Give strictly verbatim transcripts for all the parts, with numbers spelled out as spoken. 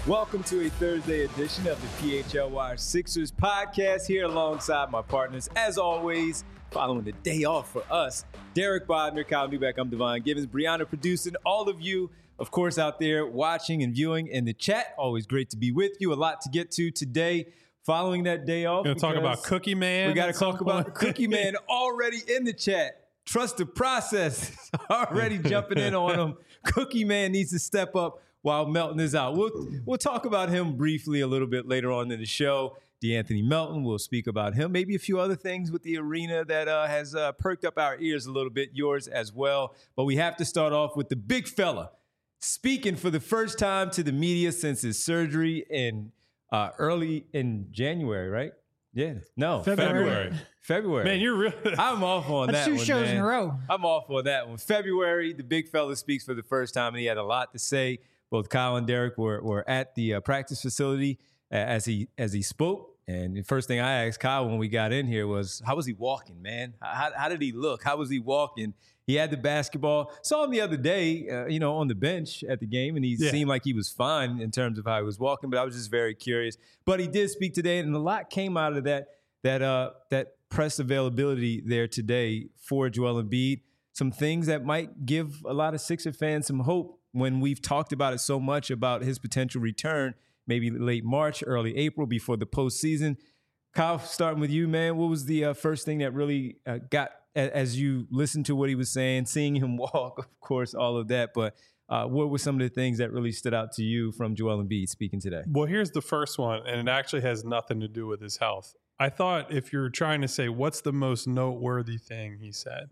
Welcome to a Thursday edition of the P H L Y Sixers podcast here alongside my partners, as always, following the day off for us, Derek Bodner, Kyle Newbeck, I'm Devon Givens, Brianna producing, all of you, of course, out there watching and viewing in the chat. Always great to be with you. A lot to get to today following that day off. We're going to talk about Cookie Man. We got to talk about Cookie Man already in the chat. Trust the process. Already jumping in on him. Cookie Man needs to step up while Melton is out. We'll we'll talk about him briefly a little bit later on in the show. DeAnthony Melton, we'll speak about him. Maybe a few other things with the arena that uh, has uh, perked up our ears a little bit, yours as well. But we have to start off with the big fella speaking for the first time to the media since his surgery in uh, early in January, right? Yeah. No. February. February. February. Man, you're really... I'm off on That's that two one, shows man. in a row. I'm off on that one. February, the big fella speaks for the first time, and he had a lot to say. Both Kyle and Derek were were at the uh, practice facility uh, as he as he spoke. And the first thing I asked Kyle when we got in here was, how was he walking, man? How, how did he look? How was he walking? He had the basketball. Saw him the other day, uh, you know, on the bench at the game, and he yeah. seemed like he was fine in terms of how he was walking, but I was just very curious. But he did speak today, and a lot came out of that that uh, that press availability there today for Joel Embiid. Some things that might give a lot of Sixer fans some hope when we've talked about it so much about his potential return, maybe late March, early April, before the postseason. Kyle, starting with you, man, what was the uh, first thing that really uh, got, a- as you listened to what he was saying, seeing him walk, of course, all of that, but uh, what were some of the things that really stood out to you from Joel Embiid speaking today? Well, here's the first one, and it actually has nothing to do with his health. I thought if you're trying to say what's the most noteworthy thing he said,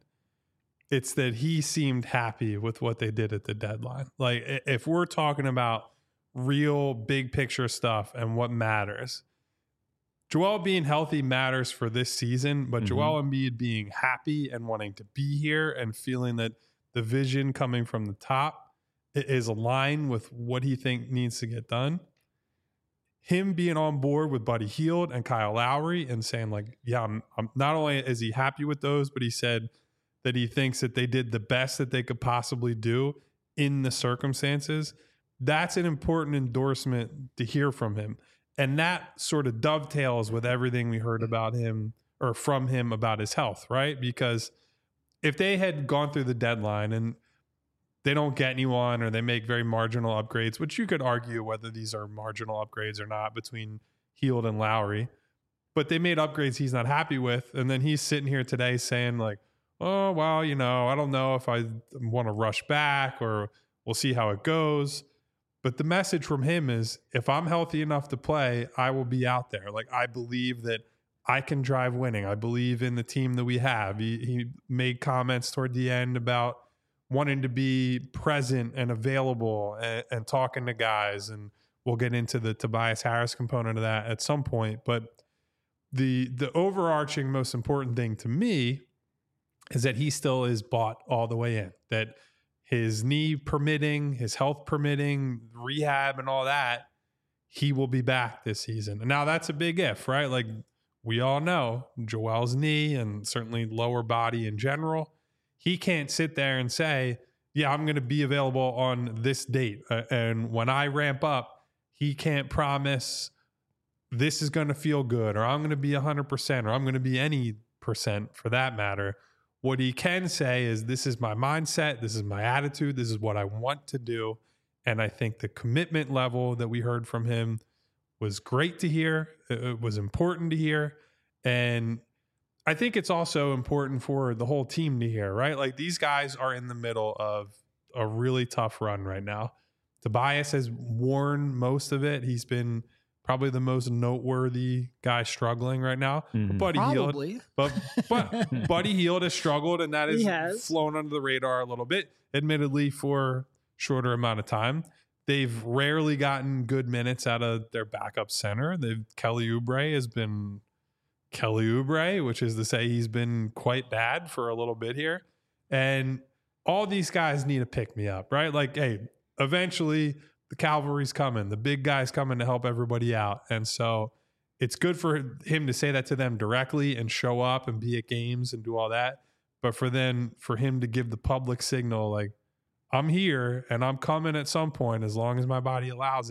it's that he seemed happy with what they did at the deadline. Like, if we're talking about real big picture stuff and what matters, Joel being healthy matters for this season, but mm-hmm. Joel Embiid being happy and wanting to be here and feeling that the vision coming from the top is aligned with what he thinks needs to get done. Him being on board with Buddy Hield and Kyle Lowry and saying, like, yeah, I'm, I'm not only is he happy with those, but he said that he thinks that they did the best that they could possibly do in the circumstances. That's an important endorsement to hear from him. And that sort of dovetails with everything we heard about him or from him about his health, right? Because if they had gone through the deadline and they don't get anyone or they make very marginal upgrades, which you could argue whether these are marginal upgrades or not between Hield and Lowry, but they made upgrades he's not happy with. And then he's sitting here today saying, like, oh, well, you know, I don't know if I want to rush back or we'll see how it goes. But the message from him is, if I'm healthy enough to play, I will be out there. Like, I believe that I can drive winning. I believe in the team that we have. He, he made comments toward the end about wanting to be present and available and, and talking to guys. And we'll get into the Tobias Harris component of that at some point. But the the overarching most important thing to me is that he still is bought all the way in, that his knee permitting, his health permitting, rehab and all that, he will be back this season. And now that's a big if, right? Like, we all know Joel's knee and certainly lower body in general, he can't sit there and say, yeah, I'm going to be available on this date. Uh, and when I ramp up, he can't promise this is going to feel good, or I'm going to be one hundred percent, or I'm going to be any percent for that matter. What he can say is, this is my mindset, this is my attitude, this is what I want to do. And I think the commitment level that we heard from him was great to hear. It was important to hear. And I think it's also important for the whole team to hear, right? Like, these guys are in the middle of a really tough run right now. Tobias has worn most of it. He's been probably the most noteworthy guy struggling right now. Mm-hmm. Buddy Probably. Hield, but but Buddy Hield has struggled, and that He has, has flown under the radar a little bit, admittedly for shorter amount of time. They've rarely gotten good minutes out of their backup center. They've Kelly Oubre has been Kelly Oubre, which is to say he's been quite bad for a little bit here. And all these guys need to pick me up, right? Like, hey, eventually the cavalry's coming. The big guy's coming to help everybody out. And so it's good for him to say that to them directly and show up and be at games and do all that. But for then, for him to give the public signal, like, I'm here and I'm coming at some point as long as my body allows it.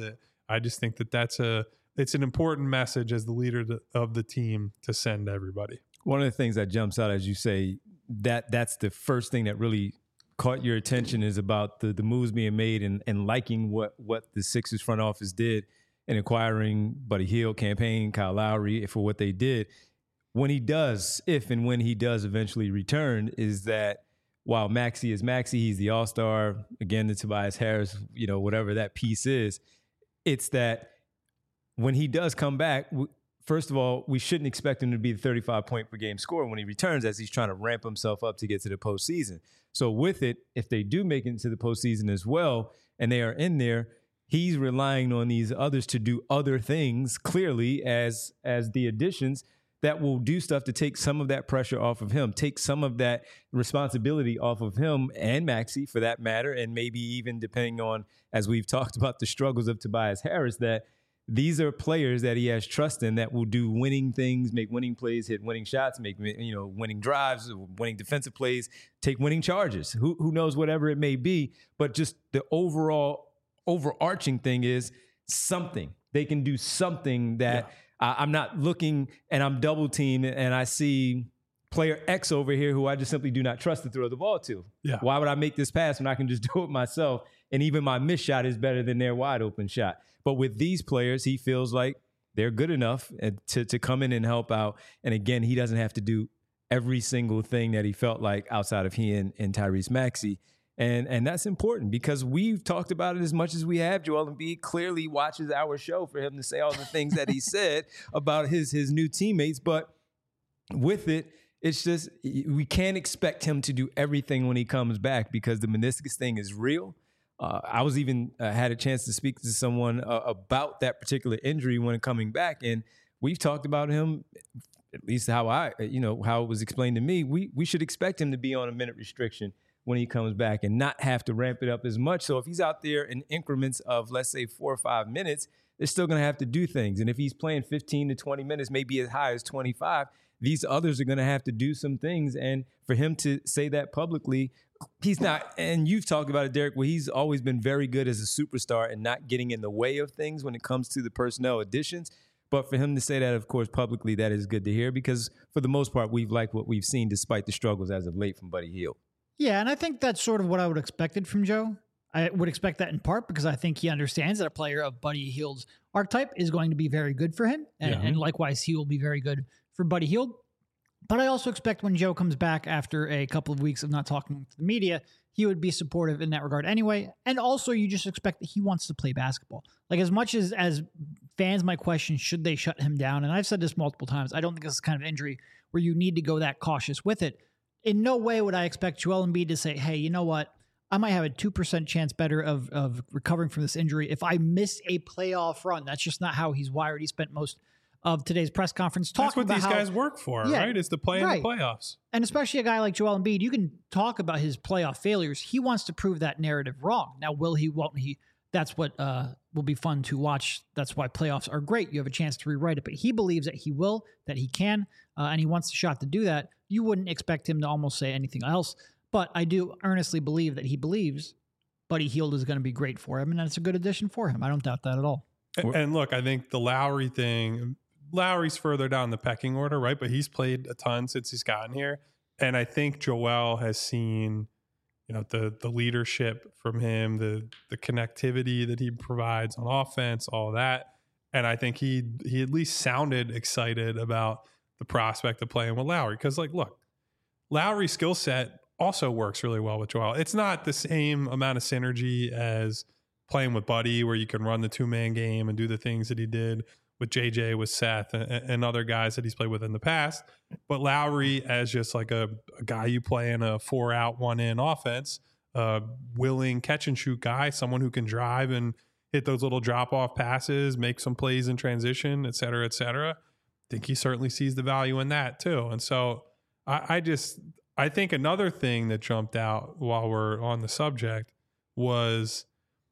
I just think that that's a it's an important message as the leader of the team to send to everybody. One of the things that jumps out, as you say, that that's the first thing that really caught your attention is about the the moves being made and, and liking what what the Sixers front office did in acquiring Buddy Hield, campaign, Kyle Lowry for what they did. When he does, if and when he does eventually return, is that while Maxey is Maxey, he's the all-star, again, the Tobias Harris, you know, whatever that piece is, it's that when he does come back, first of all, we shouldn't expect him to be the thirty-five point per game scorer when he returns, as he's trying to ramp himself up to get to the postseason. So with it, if they do make it into the postseason as well, and they are in there, he's relying on these others to do other things, clearly, as as the additions that will do stuff to take some of that pressure off of him, take some of that responsibility off of him and Maxey, for that matter, and maybe even depending on, as we've talked about, the struggles of Tobias Harris, that these are players that he has trust in that will do winning things, make winning plays, hit winning shots, make you know winning drives, winning defensive plays, take winning charges. Who who knows, whatever it may be, but just the overall overarching thing is something. They can do something that yeah. I, I'm not looking and I'm double teamed and I see player X over here who I just simply do not trust to throw the ball to. Yeah. Why would I make this pass when I can just do it myself? And even my missed shot is better than their wide open shot. But with these players, he feels like they're good enough to, to come in and help out. And again, he doesn't have to do every single thing that he felt like outside of he and, and Tyrese Maxey. And and that's important because we've talked about it as much as we have. Joel Embiid clearly watches our show for him to say all the things that he said about his his new teammates. But with it, it's just we can't expect him to do everything when he comes back because the meniscus thing is real. Uh, I was even uh, had a chance to speak to someone uh, about that particular injury when coming back, and we've talked about him. At least how I, you know, how it was explained to me. We we should expect him to be on a minute restriction when he comes back and not have to ramp it up as much. So if he's out there in increments of, let's say, four or five minutes, they're still going to have to do things. And if he's playing fifteen to twenty minutes, maybe as high as twenty-five, these others are going to have to do some things. And for him to say that publicly, he's not, and you've talked about it, Derek, where he's always been very good as a superstar and not getting in the way of things when it comes to the personnel additions. But for him to say that, of course, publicly, that is good to hear because for the most part, we've liked what we've seen despite the struggles as of late from Buddy Hield. Yeah, and I think that's sort of what I would expected from Joe. I would expect that in part because I think he understands that a player of Buddy Hield's archetype is going to be very good for him. And, yeah. and likewise, he will be very good for Buddy Hield. But I also expect when Joe comes back after a couple of weeks of not talking to the media, he would be supportive in that regard anyway. And also, you just expect that he wants to play basketball. Like, as much as, as fans might question, should they shut him down? And I've said this multiple times. I don't think this is the kind of injury where you need to go that cautious with it. In no way would I expect Joel Embiid to say, hey, you know what? I might have a two percent chance better of, of recovering from this injury if I miss a playoff run. That's just not how he's wired. He spent most of today's press conference talking That's what about these how, guys work for, yeah, right? Is to play right. in the playoffs. And especially a guy like Joel Embiid, you can talk about his playoff failures. He wants to prove that narrative wrong. Now, will he, won't he? That's what uh, will be fun to watch. That's why playoffs are great. You have a chance to rewrite it. But he believes that he will, that he can, uh, and he wants the shot to do that. You wouldn't expect him to almost say anything else. But I do earnestly believe that he believes Buddy Hield is going to be great for him, and that's a good addition for him. I don't doubt that at all. And, and look, I think the Lowry thing, Lowry's further down the pecking order, right? But he's played a ton since he's gotten here. And I think Joel has seen, you know, the the leadership from him, the the connectivity that he provides on offense, all that. And I think he he at least sounded excited about the prospect of playing with Lowry. Because, like, look, Lowry's skill set also works really well with Joel. It's not the same amount of synergy as playing with Buddy, where you can run the two-man game and do the things that he did with J J, with Seth, and, and other guys that he's played with in the past. But Lowry, as just like a, a guy you play in a four-out, one-in offense, uh, willing catch-and-shoot guy, someone who can drive and hit those little drop-off passes, make some plays in transition, et cetera, et cetera. I think he certainly sees the value in that too. And so I, I just – I think another thing that jumped out while we're on the subject was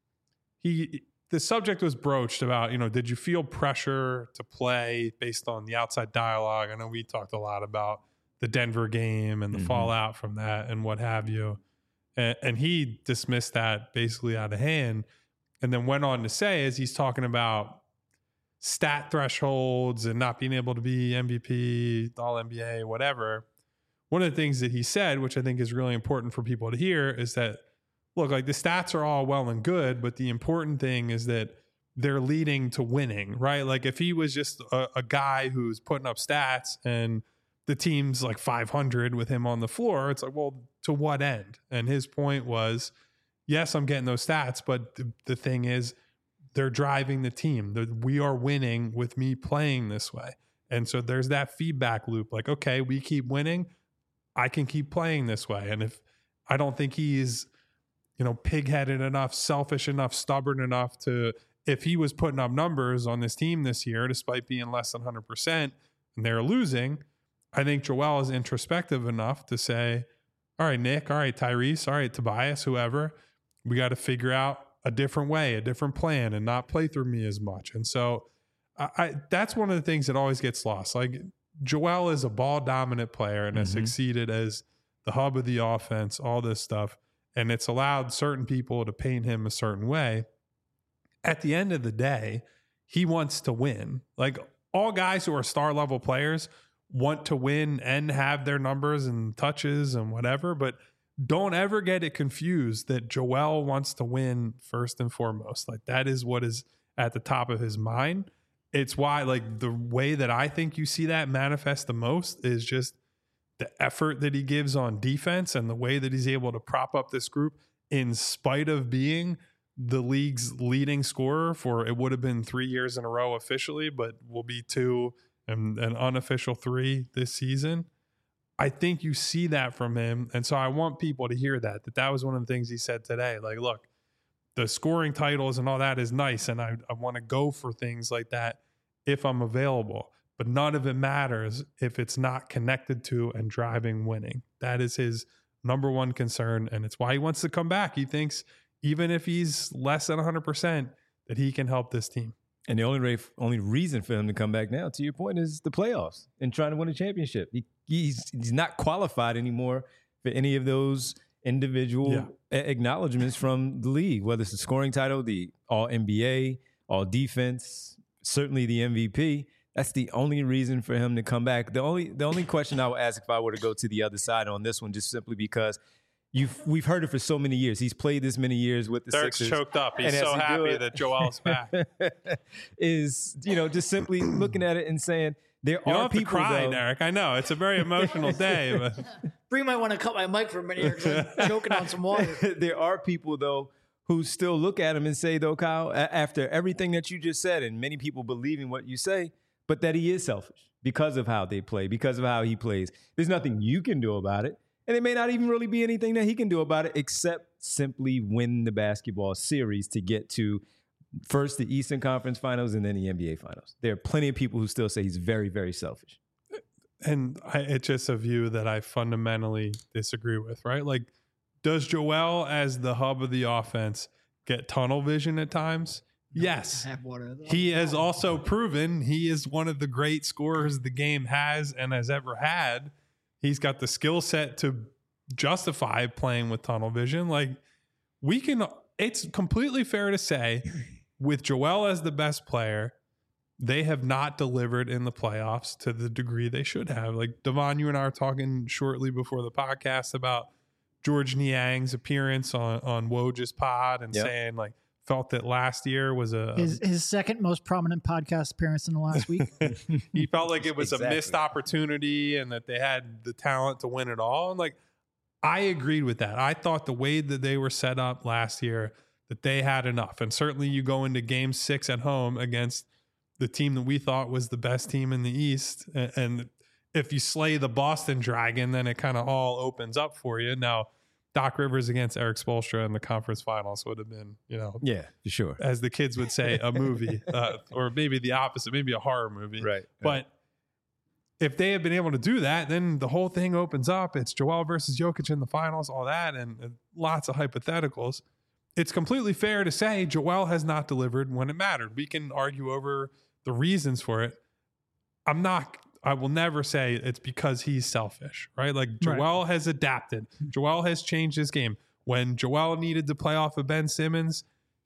he – the subject was broached about, you know, did you feel pressure to play based on the outside dialogue? I know we talked a lot about the Denver game and the mm-hmm. fallout from that and what have you. And, and he dismissed that basically out of hand. and then went on to say, as he's talking about stat thresholds and not being able to be M V P, all N B A, whatever. One of the things that he said, which I think is really important for people to hear, is that, look, like the stats are all well and good, but the important thing is that they're leading to winning, right? Like if he was just a, a guy who's putting up stats and the team's like five hundred with him on the floor, it's like, well, to what end? And his point was, yes, I'm getting those stats, but the, the thing is, they're driving the team. The, we are winning with me playing this way. And so there's that feedback loop. Like, okay, we keep winning. I can keep playing this way. And if I don't think he's, you know, pig-headed enough, selfish enough, stubborn enough to, if he was putting up numbers on this team this year, despite being less than one hundred percent and they're losing, I think Joel is introspective enough to say, all right, Nick, all right, Tyrese, all right, Tobias, whoever, we got to figure out a different way, a different plan, and not play through me as much. And so I, I that's one of the things that always gets lost. Like Joel is a ball dominant player and mm-hmm. has succeeded as the hub of the offense, all this stuff. And it's allowed certain people to paint him a certain way. At the end of the day, he wants to win. Like all guys who are star level players want to win and have their numbers and touches and whatever, but don't ever get it confused that Joel wants to win first and foremost. Like that is what is at the top of his mind. It's why, like, the way that I think you see that manifest the most is just the effort that he gives on defense and the way that he's able to prop up this group in spite of being the league's leading scorer for, it would have been three years in a row officially, but will be two and an unofficial three this season. I think you see that from him. And so I want people to hear that, that that was one of the things he said today. Like, look, the scoring titles and all that is nice. And I, I want to go for things like that if I'm available, but none of it matters if it's not connected to and driving winning. That is his number one concern. And it's why he wants to come back. He thinks even if he's less than one hundred percent, that he can help this team. And the only re- only reason for him to come back now, to your point, is the playoffs and trying to win a championship. He, he's he's not qualified anymore for any of those individual yeah. a- acknowledgments from the league, whether it's the scoring title, the All N B A, All Defense, certainly the M V P. That's the only reason for him to come back. The only the only question I would ask if I were to go to the other side on this one, just simply because You've, we've heard it for so many years. He's played this many years with the Derek's Sixers. Choked up. He's so happy that Joel's back. Is, you know, just simply looking at it and saying, there you are don't have people, to cry, though, Derek. I know. It's a very emotional day. But Bree might want to cut my mic for a minute here because I'm choking on some water. There are people, though, who still look at him and say, though, Kyle, after everything that you just said, and many people believing what you say, but that he is selfish because of how they play, because of how he plays. There's nothing you can do about it. And it may not even really be anything that he can do about it except simply win the basketball series to get to first the Eastern Conference Finals and then the N B A Finals. There are plenty of people who still say he's very, very selfish. And I, it's just a view that I fundamentally disagree with, right? Like, does Joel, as the hub of the offense, get tunnel vision at times? Yes. Have water. He has also proven he is one of the great scorers the game has and has ever had. He's got the skill set to justify playing with tunnel vision. Like, we can, it's completely fair to say, with Joel as the best player, they have not delivered in the playoffs to the degree they should have. Like, Devon, you and I were talking shortly before the podcast about George Niang's appearance on, on Woj's pod and yep. saying, like, felt that last year was a his, his second most prominent podcast appearance in the last week. He felt like it was exactly. a missed opportunity and that they had the talent to win it all. And like, I agreed with that. I thought the way that they were set up last year, that they had enough. And certainly you go into game six at home against the team that we thought was the best team in the East. And if you slay the Boston Dragon, then it kind of all opens up for you. Now, Doc Rivers against Eric Spoelstra in the conference finals would have been, you know, yeah, for sure, as the kids would say, a movie, uh, or maybe the opposite, maybe a horror movie. Right. But right. if they had been able to do that, then the whole thing opens up. It's Joel versus Jokic in the finals, all that, and, and lots of hypotheticals. It's completely fair to say Joel has not delivered when it mattered. We can argue over the reasons for it. I'm not. I will never say it's because he's selfish, right? Like Joel right. has adapted. Joel has changed his game. When Joel needed to play off of Ben Simmons,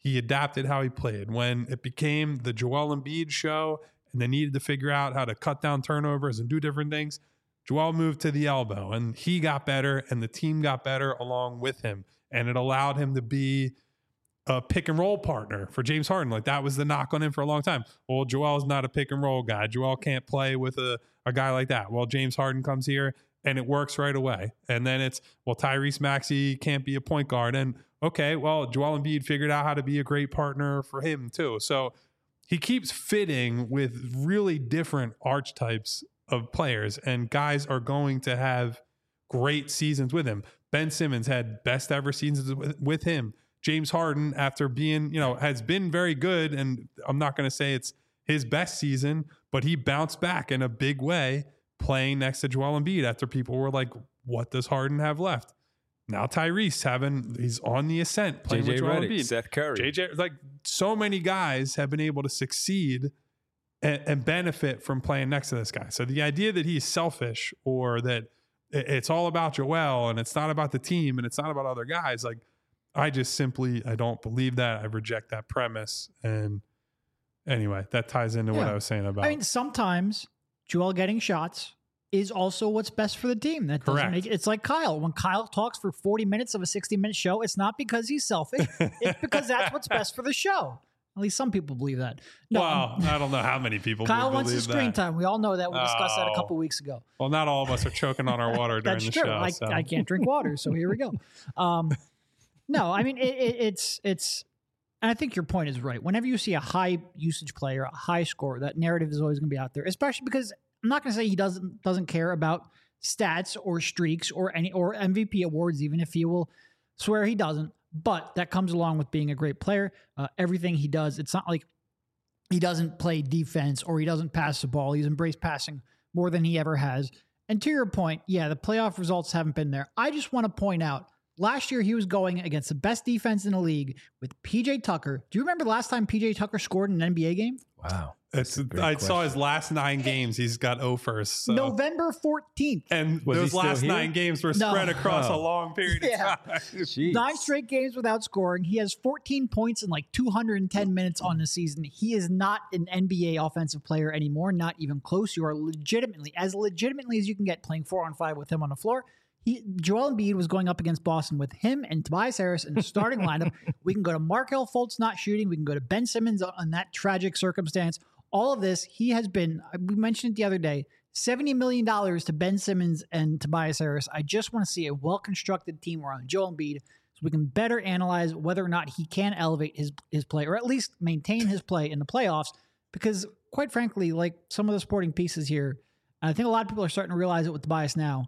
he adapted how he played. When it became the Joel Embiid show and they needed to figure out how to cut down turnovers and do different things, Joel moved to the elbow and he got better and the team got better along with him. And it allowed him to be a pick and roll partner for James Harden. Like that was the knock on him for a long time. Well, Joel's not a pick and roll guy. Joel can't play with a, a guy like that. Well, James Harden comes here and it works right away. And then it's, well, Tyrese Maxey can't be a point guard. And okay, well, Joel Embiid figured out how to be a great partner for him too. So he keeps fitting with really different archetypes of players, and guys are going to have great seasons with him. Ben Simmons had best ever seasons with, with him. James Harden, after being, you know, has been very good, and I'm not going to say it's his best season, but he bounced back in a big way playing next to Joel Embiid after people were like, what does Harden have left? Now Tyrese having, he's on the ascent playing J J with Joel Redick, Embiid. Seth Curry. J J, like so many guys have been able to succeed and, and benefit from playing next to this guy. So the idea that he's selfish or that it's all about Joel and it's not about the team and it's not about other guys, like I just simply, I don't believe that. I reject that premise. And anyway, that ties into Yeah. what I was saying about. I mean, sometimes Joel getting shots is also what's best for the team. That doesn't Correct. make it's like Kyle. When Kyle talks for forty minutes of a sixty minute show, it's not because he's selfish. It's because that's what's best for the show. At least some people believe that. No, well, I don't know how many people Kyle would wants believe his screen that. time. We all know that. We discussed that a Oh. couple weeks ago. Well, not all of us are choking on our water during That's the true. show. I, so. I can't drink water, so here we go. Um, no, I mean it, it, it's it's. And I think your point is right. Whenever you see a high usage player, a high scorer, that narrative is always going to be out there. Especially because I'm not going to say he doesn't doesn't care about stats or streaks or any or M V P awards, even if he will swear he doesn't. But that comes along with being a great player. Uh, everything he does, it's not like he doesn't play defense or he doesn't pass the ball. He's embraced passing more than he ever has. And to your point, yeah, the playoff results haven't been there. I just want to point out, last year he was going against the best defense in the league with P J Tucker. Do you remember the last time P J Tucker scored in an N B A game? Wow. It's, That's a great I question. saw his last nine games. He's got oh first. So. November fourteenth. And Was he those still last here? nine games were No. spread across Oh. a long period Yeah. of time. Jeez. Nine straight games without scoring. He has fourteen points in like two hundred ten minutes on the season. He is not an N B A offensive player anymore, not even close. You are legitimately, as legitimately as you can get, playing four on five with him on the floor. He, Joel Embiid was going up against Boston with him and Tobias Harris in the starting lineup. We can go to Markelle Fultz not shooting. We can go to Ben Simmons on that tragic circumstance. All of this, he has been, we mentioned it the other day, seventy million dollars to Ben Simmons and Tobias Harris. I just want to see a well-constructed team around Joel Embiid so we can better analyze whether or not he can elevate his, his play or at least maintain his play in the playoffs. Because quite frankly, like some of the supporting pieces here, and I think a lot of people are starting to realize it with Tobias now,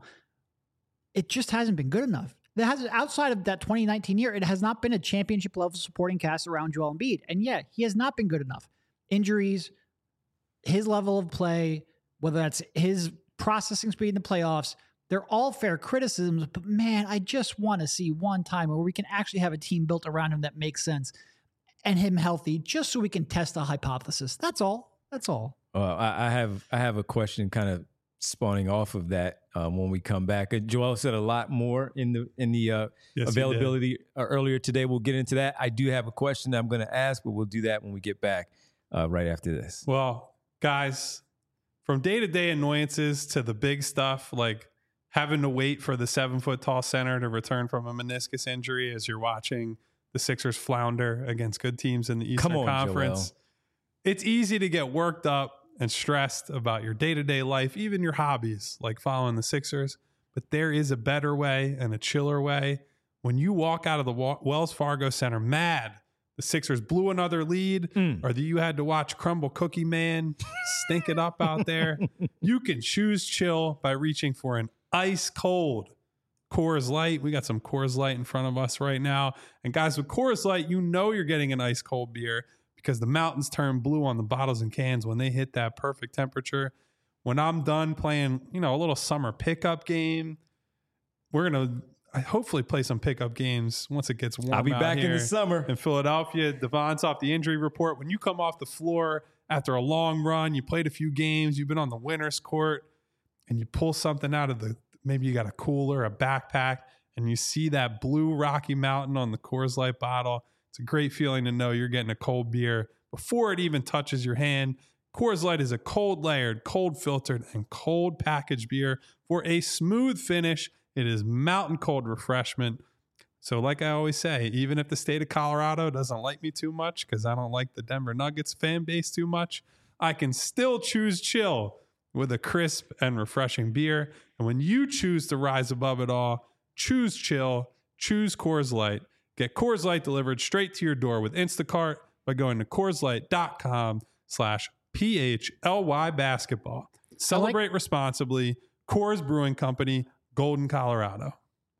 it just hasn't been good enough. That has, outside of that twenty nineteen year, it has not been a championship level supporting cast around Joel Embiid. And yeah, he has not been good enough. Injuries, his level of play, whether that's his processing speed in the playoffs, they're all fair criticisms. But man, I just want to see one time where we can actually have a team built around him that makes sense and him healthy, just so we can test a hypothesis. That's all. That's all. Well, I, I have I have a question kind of spawning off of that um, when we come back. Uh, Joel said a lot more in the in the uh, Yes, he availability uh, earlier today. We'll get into that. I do have a question that I'm going to ask, but we'll do that when we get back uh, right after this. Well, guys, from day to day annoyances to the big stuff, like having to wait for the seven foot tall center to return from a meniscus injury as you're watching the Sixers flounder against good teams in the Eastern Come on, Conference. Joel. It's easy to get worked up and stressed about your day to day life, even your hobbies, like following the Sixers. But there is a better way and a chiller way. When you walk out of the Wa- Wells Fargo Center mad the Sixers blew another lead, Mm. or that you had to watch Crumble Cookie Man stink it up out there, you can choose chill by reaching for an ice cold Coors Light. We got some Coors Light in front of us right now. And guys, with Coors Light, you know you're getting an ice cold beer because the mountains turn blue on the bottles and cans when they hit that perfect temperature. When I'm done playing, you know, a little summer pickup game, we're going to I hopefully play some pickup games once it gets warm. I'll be out back in here the summer. in Philadelphia. Devon's off the injury report. When you come off the floor after a long run, you played a few games, you've been on the winner's court, and you pull something out of the, maybe you got a cooler, a backpack, and you see that blue Rocky Mountain on the Coors Light bottle. It's a great feeling to know you're getting a cold beer before it even touches your hand. Coors Light is a cold layered, cold filtered, and cold packaged beer for a smooth finish. It is mountain cold refreshment. So like I always say, even if the state of Colorado doesn't like me too much because I don't like the Denver Nuggets fan base too much, I can still choose chill with a crisp and refreshing beer. And when you choose to rise above it all, choose chill, choose Coors Light. Get Coors Light delivered straight to your door with Instacart by going to CoorsLight.com slash P-H-L-Y basketball. Celebrate like, responsibly. Coors Brewing Company, Golden, Colorado.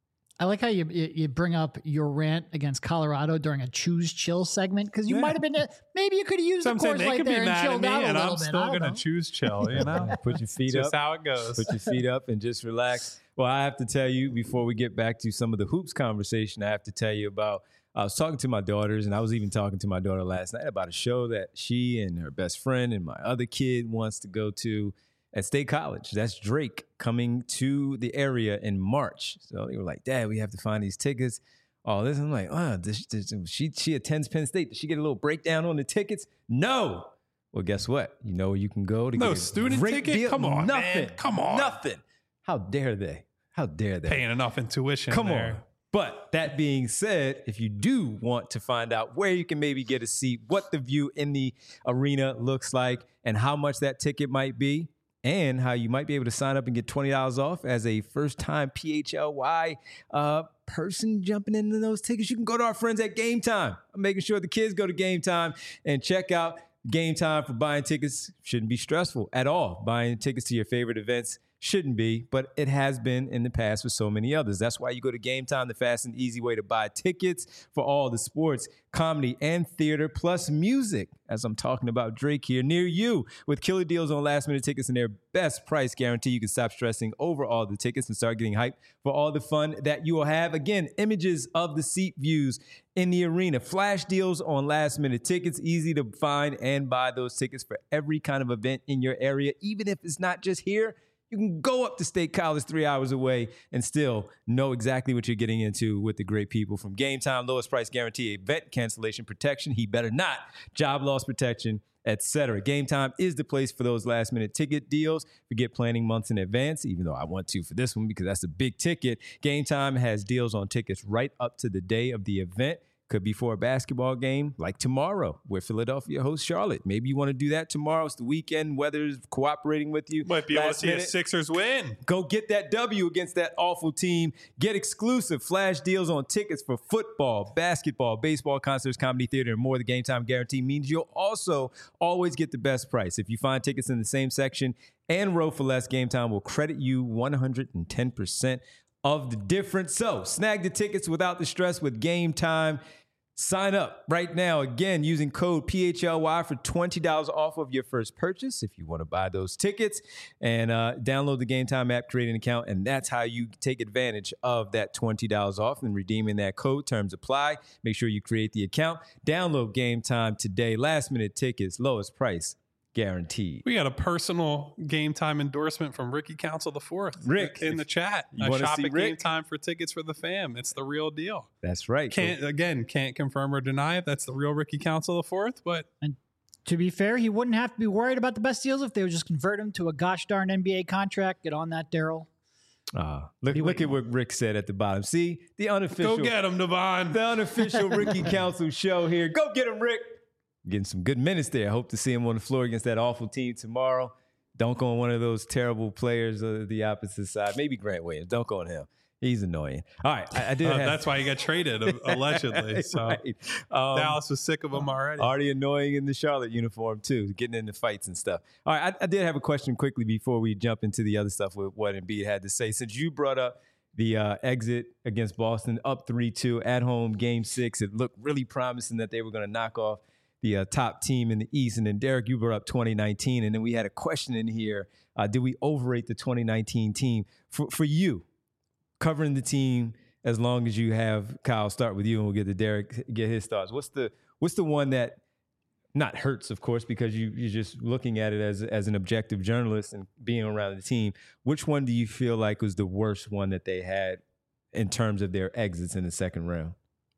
I like how you you bring up your rant against Colorado during a choose chill segment because you yeah. might have been maybe you could have used so the Coors Light there and chilled out a and little I'm bit. still going to choose chill, you know. Put your feet That's up. Just how it goes. Put your feet up and just relax. Well, I have to tell you before we get back to some of the hoops conversation, I have to tell you about. I was talking to my daughters, and I was even talking to my daughter last night about a show that she and her best friend and my other kid wants to go to at State College. That's Drake coming to the area in March. So they were like, Dad, we have to find these tickets. All this. I'm like, oh, this, this, she she attends Penn State. Did she get a little breakdown on the tickets? No. Well, guess what? You know where you can go to no get a student great ticket? Deal? Come on, Nothing. Man. Come on. Nothing. How dare they? How dare they? Paying enough in tuition. Come there. on. But that being said, if you do want to find out where you can maybe get a seat, what the view in the arena looks like, and how much that ticket might be, and how you might be able to sign up and get twenty dollars off as a first-time P H L Y uh, person jumping into those tickets, you can go to our friends at Game Time. I'm making sure the kids go to Game Time and check out Game Time for buying tickets. Shouldn't be stressful at all. Buying tickets to your favorite events shouldn't be, but it has been in the past with so many others. That's why you go to Game Time, the fast and easy way to buy tickets for all the sports, comedy, and theater, plus music, as I'm talking about Drake here, near you. With killer deals on last-minute tickets and their best price guarantee, you can stop stressing over all the tickets and start getting hyped for all the fun that you will have. Again, images of the seat views in the arena, flash deals on last-minute tickets, easy to find and buy those tickets for every kind of event in your area, even if it's not just here. You can go up to State College three hours away and still know exactly what you're getting into with the great people from Game Time, lowest price guarantee, event cancellation protection, he better not, job loss protection, et cetera. Game Time is the place for those last-minute ticket deals. Forget planning months in advance, even though I want to for this one because that's a big ticket. Game Time has deals on tickets right up to the day of the event. Could be for a basketball game like tomorrow where Philadelphia hosts Charlotte. Maybe you want to do that tomorrow. It's the weekend. Weather's cooperating with you. Might be able to see minute. a Sixers win. Go get that W against that awful team. Get exclusive flash deals on tickets for football, basketball, baseball, concerts, comedy, theater, and more. The Game Time guarantee means you'll also always get the best price. If you find tickets in the same section and row for less, Game Time will credit you one hundred ten percent of the difference. So snag the tickets without the stress with Game Time. Sign up right now, again, using code P H L Y for twenty dollars off of your first purchase if you want to buy those tickets. And uh, download the Game Time app, create an account, and that's how you take advantage of that twenty dollars off and redeeming that code. Terms apply. Make sure you create the account. Download Game Time today. Last-minute tickets, lowest price guaranteed. We got a personal Game Time endorsement from Ricky Council the Fourth. Rick in the chat. You I want to shop see at Rick? Game Time for tickets for the fam. It's the real deal. That's right. Can't so, again can't confirm or deny if that's the real Ricky Council the Fourth, but And to be fair, he wouldn't have to be worried about the best deals if they would just convert him to a gosh darn N B A contract. Get on that, Daryl. uh, look, look at what Rick said at the bottom. See, the unofficial. go get him, Devon. The unofficial Ricky Council show here. Go get him, Rick. Getting some good minutes there. I hope to see him on the floor against that awful team tomorrow. Dunk on one of those terrible players of the opposite side. Maybe Grant Williams. Dunk on him. He's annoying. All right. I, I did. Uh, have, that's why he got traded, allegedly. So right. um, Dallas was sick of him already. Already annoying in the Charlotte uniform, too, getting into fights and stuff. All right. I, I did have a question quickly before we jump into the other stuff with what Embiid had to say. Since you brought up the uh, exit against Boston, up three two at home, game six, it looked really promising that they were going to knock off the uh, top team in the East. And then, Derek, you brought up twenty nineteen, and then we had a question in here. Uh, did we overrate the twenty nineteen team? For, for you, covering the team as long as you have Kyle start with you, and we'll get to Derek, get his thoughts. What's the what's the one that not hurts, of course, because you, you're just looking at it as, as an objective journalist and being around the team. Which one do you feel like was the worst one that they had in terms of their exits in the second round?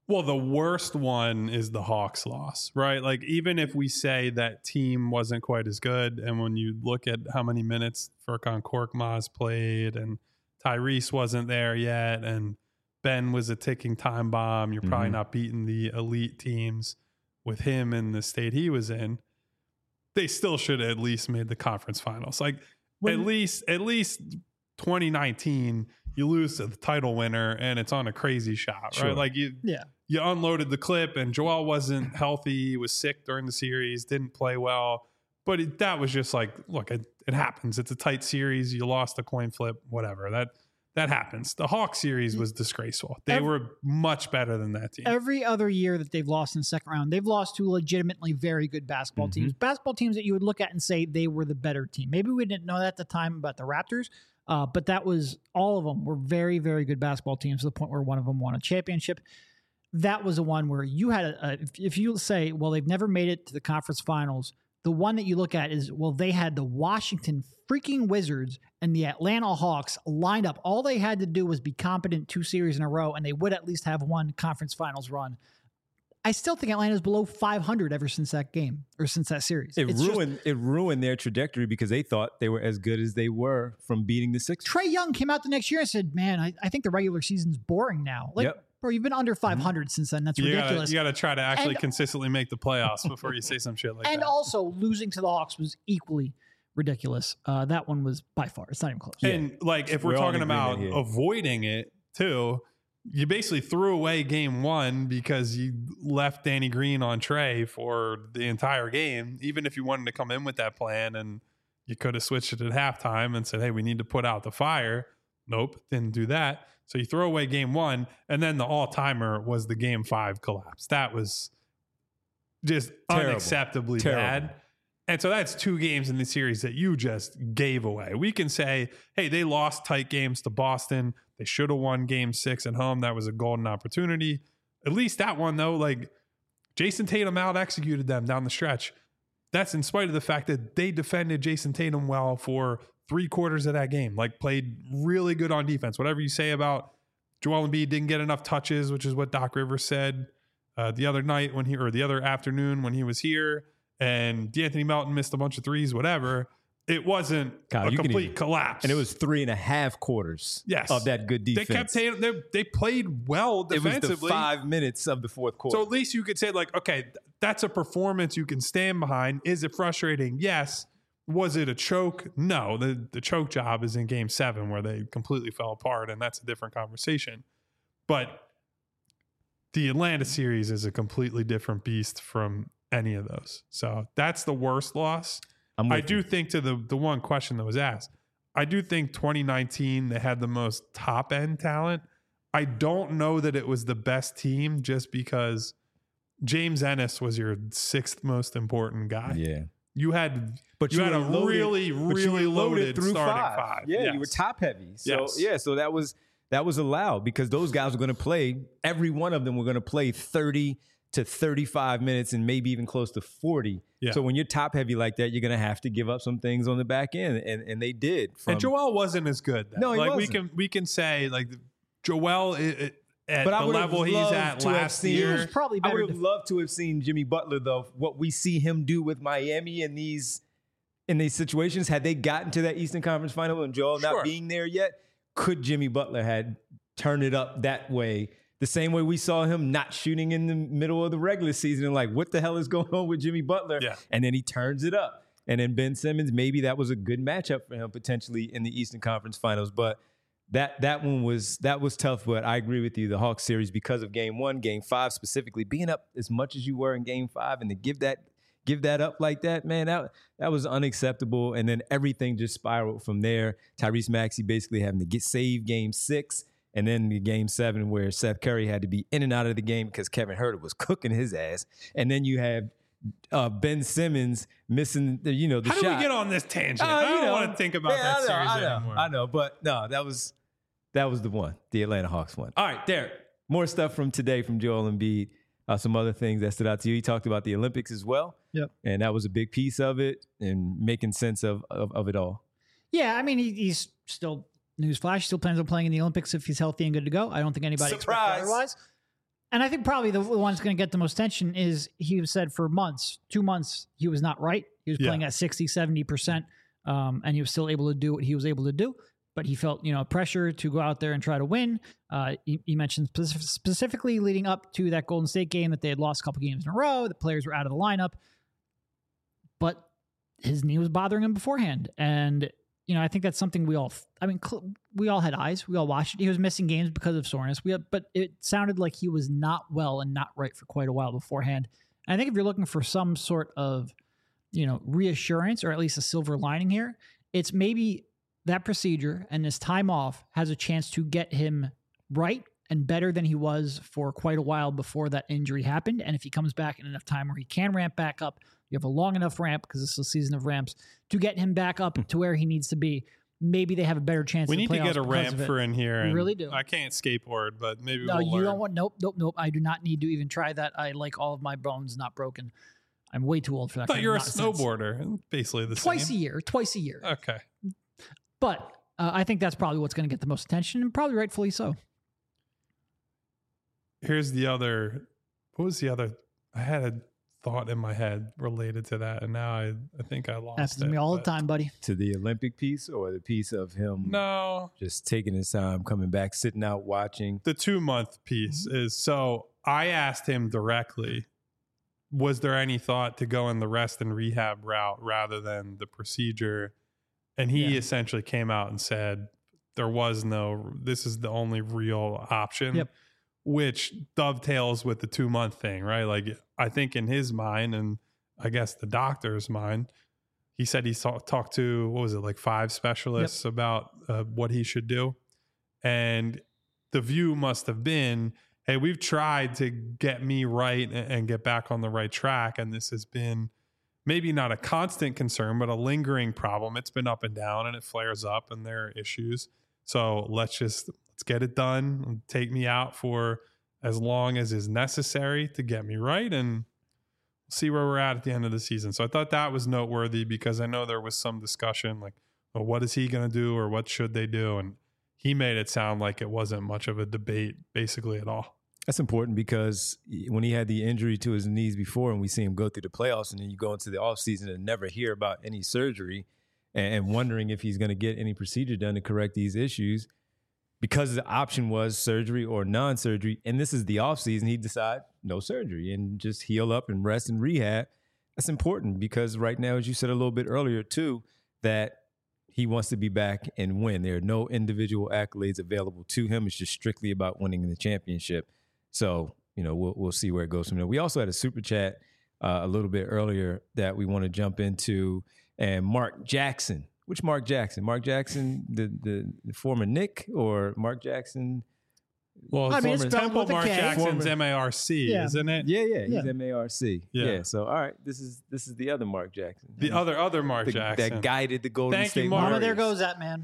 Well, the worst one is the Hawks loss, right? Like, even if we say that team wasn't quite as good, and when you look at how many minutes Furkan Korkmaz played, and Tyrese wasn't there yet, and Ben was a ticking time bomb, you're probably Mhm. not beating the elite teams with him in the state he was in. They still should have at least made the conference finals. Like, When- at least, at least twenty nineteen, you lose to the title winner, and it's on a crazy shot, Sure. right? Like, you. Yeah. You unloaded the clip, and Joel wasn't healthy. He was sick during the series, didn't play well. But it, that was just like, look, it, it happens. It's a tight series. You lost a coin flip, whatever. That that happens. The Hawks series was disgraceful. They Every- were much better than that team. Every other year that they've lost in the second round, they've lost to legitimately very good basketball Mhm. teams. Basketball teams that you would look at and say they were the better team. Maybe we didn't know that at the time about the Raptors, uh, but that was all of them were very, very good basketball teams to the point where one of them won a championship. That was the one where you had a, a if, if you say, well, they've never made it to the conference finals. The one that you look at is, well, they had the Washington freaking Wizards and the Atlanta Hawks lined up. All they had to do was be competent two series in a row, and they would at least have one conference finals run. I still think Atlanta's below five hundred ever since that game or since that series. It It's just- ruined it ruined their trajectory because they thought they were as good as they were from beating the Sixers. Trey Young came out the next year and said, man, I, I think the regular season's boring now. Like, Yep. bro, you've been under five hundred since then. That's you gotta, ridiculous. you got to try to actually And- consistently make the playoffs before you say some shit like and that. also losing to the Hawks was equally ridiculous. Uh, that one was by far. It's not even close. And like, if we're, We're all in talking about agreement here. avoiding it too, you basically threw away game one because you left Danny Green on Trey for the entire game. Even if you wanted to come in with that plan and you could have switched it at halftime and said, hey, we need to put out the fire. Nope, didn't do that. So you throw away game one, and then the all-timer was the game five collapse. That was just Terrible. unacceptably Terrible. bad. And so that's two games in the series that you just gave away. We can say, hey, they lost tight games to Boston. They should have won game six at home. That was a golden opportunity. At least that one, though, like Jason Tatum out executed them down the stretch. That's in spite of the fact that they defended Jason Tatum well for three quarters of that game, like played really good on defense. Whatever you say about Joel Embiid didn't get enough touches, which is what Doc Rivers said uh, the other night when he, or the other afternoon when he was here. And D'Anthony Melton missed a bunch of threes, whatever. It wasn't Kyle, a you can complete even- collapse. And it was three and a half quarters Yes. of that good they defense. kept Tatum, they, they played well it was defensively. the five minutes of the fourth quarter. So at least you could say, like, okay, th- that's a performance you can stand behind. Is it frustrating? Yes. Was it a choke? No. The the choke job is in game seven where they completely fell apart, and that's a different conversation. But the Atlanta series is a completely different beast from any of those. So that's the worst loss. I'm I with do you. think to the the one question that was asked, I do think twenty nineteen they had the most top end talent. I don't know that it was the best team just because James Ennis was your sixth most important guy. Yeah. You had But you, you had a were loaded- really, but you really were loaded, through starting five. five. Yeah, Yes. you were top heavy. So Yes. yeah, so that was that was allowed because those guys were going to play. Every one of them were going to play thirty to thirty-five minutes and maybe even close to forty. Yeah. So when you're top heavy like that, you're going to have to give up some things on the back end, and and they did. From, And Joel wasn't as good. Then. No, he like we wasn't. can we can say like Joel i- i- at But I the would've level he's loved at to have last seen- He year. was probably I better. would have def- loved to have seen Jimmy Butler though. What we see him do with Miami in these in these situations, had they gotten to that Eastern Conference Final and Joel Sure. not being there yet, could Jimmy Butler had turned it up that way? The same way we saw him not shooting in the middle of the regular season and like, what the hell is going on with Jimmy Butler? Yeah. And then he turns it up. And then Ben Simmons, maybe that was a good matchup for him potentially in the Eastern Conference Finals. But that that one was that was tough. But I agree with you, the Hawks series, because of game one, game five specifically, being up as much as you were in game five and to give that give that up like that, man, that that was unacceptable. And then everything just spiraled from there. Tyrese Maxey basically having to get save game six. And then the game seven where Seth Curry had to be in and out of the game because Kevin Huerter was cooking his ass. And then you have uh, Ben Simmons missing the, you know, the How shot. do we get on this tangent? Uh, I you don't know. want to think about Yeah, that I know, series I know, anymore. I know, but no, that was that was the one, the Atlanta Hawks one. All right, Derek, more stuff from today from Joel Embiid. Uh, some other things that stood out to you. He talked about the Olympics as well. Yep. And that was a big piece of it and making sense of of, of it all. Yeah, I mean, he, he's still, newsflash, still plans on playing in the Olympics if he's healthy and good to go. I don't think anybody expected Surprise. otherwise. And I think probably the one that's going to get the most attention is he said for months, two months, he was not right. He was Yeah. playing at sixty, seventy percent, um, and he was still able to do what he was able to do. But he felt, you know, pressure to go out there and try to win. Uh, he, he mentioned specific, specifically leading up to that Golden State game that they had lost a couple games in a row. The players were out of the lineup. But his knee was bothering him beforehand. And, you know, I think that's something we all, I mean, cl- we all had eyes. We all watched it. He was missing games because of soreness. We had, but it sounded like he was not well and not right for quite a while beforehand. And I think if you're looking for some sort of, you know, reassurance or at least a silver lining here, it's maybe that procedure and this time off has a chance to get him right and better than he was for quite a while before that injury happened. And if he comes back in enough time where he can ramp back up, you have a long enough ramp, because this is a season of ramps, to get him back up to where he needs to be. Maybe they have a better chance. We in the need to get a playoffs because ramp of it. for in here. We and really do. I can't skateboard, but maybe No, we'll you learn. don't want. Nope, nope, nope. I do not need to even try that. I like all of my bones not broken. I'm way too old for that. I thought kind you were a of nonsense. snowboarder. Basically the Twice same. a year. Twice a year. Okay. But uh, I think that's probably what's going to get the most attention, and probably rightfully so. Here's the other. What was the other? I had a thought in my head related to that, and now I, I think I lost Happens it. to me all the but- time, buddy. To the Olympic piece or the piece of him No, just taking his time, coming back, sitting out, watching. the two month piece Mm-hmm. is so I asked him directly, was there any thought to go in the rest and rehab route rather than the procedure? And he Yeah. essentially came out and said there was no, this is the only real option, Yep. which dovetails with the two month thing, right? Like I think in his mind, and I guess the doctor's mind, he said he saw, talked to, what was it, like five specialists about uh, what he should do. And the view must have been, hey, we've tried to get me right and, and get back on the right track. And this has been maybe not a constant concern, but a lingering problem. It's been up and down and it flares up and there are issues. So let's just, let's get it done. Take me out for as long as is necessary to get me right and see where we're at at the end of the season. So I thought that was noteworthy because I know there was some discussion like, well, what is he going to do or what should they do? And he made it sound like it wasn't much of a debate basically at all. That's important because when he had the injury to his knees before and we see him go through the playoffs and then you go into the offseason and never hear about any surgery and, and wondering if he's going to get any procedure done to correct these issues, because the option was surgery or non-surgery, and this is the offseason, he decided no surgery and just heal up and rest and rehab. That's important because right now, as you said a little bit earlier too, that he wants to be back and win. There are no individual accolades available to him. It's just strictly about winning the championship. So, you know, we'll we'll see where it goes from there. We also had a super chat uh, a little bit earlier that we want to jump into. And Mark Jackson, which Mark Jackson? Mark Jackson, the the, the former Knick, or Mark Jackson? Well, I mean, it's former spelled Temple with a Mark K. Jackson's Former- M A R C, Yeah. isn't it? Yeah, yeah, he's Yeah. M A R C. Yeah. Yeah. So, all right, this is this is the other Mark Jackson. The other other Mark The- Jackson. that guided the Golden Thank you, State Mark. Mama, Warriors. there goes that man.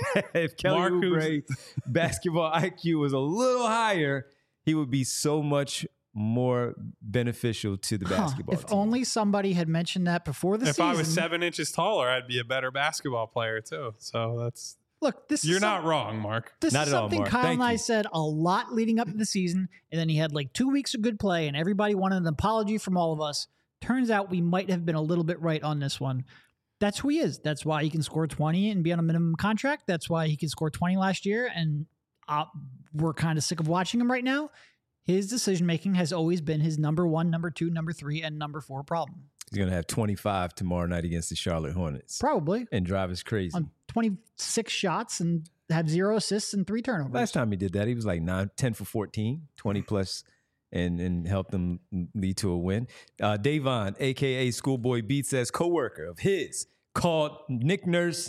If Kelly Mark, who's- Oubre basketball I Q was a little higher, he would be so much more beneficial to the Huh. basketball If team. only somebody had mentioned that before the if season. I was seven inches taller, I'd be a better basketball player too. So that's Look, this you're is not some- wrong, Mark. This Not is at all, something Mark. Kyle Thank and I you. said a lot leading up to the season, and then he had like two weeks of good play, and everybody wanted an apology from all of us. Turns out we might have been a little bit right on this one. That's who he is. That's why he can score twenty and be on a minimum contract. That's why he could score twenty last year, and uh, we're kind of sick of watching him right now. His decision making has always been his number one, number two, number three, and number four problem. He's going to have twenty-five tomorrow night against the Charlotte Hornets Probably and drive us crazy. on twenty-six shots and have zero assists and three turnovers. Last time he did that, he was like nine, ten for fourteen, twenty plus, and, and helped them lead to a win. Uh, Davon, a k a. Schoolboy Beats, says coworker of his called Nick Nurse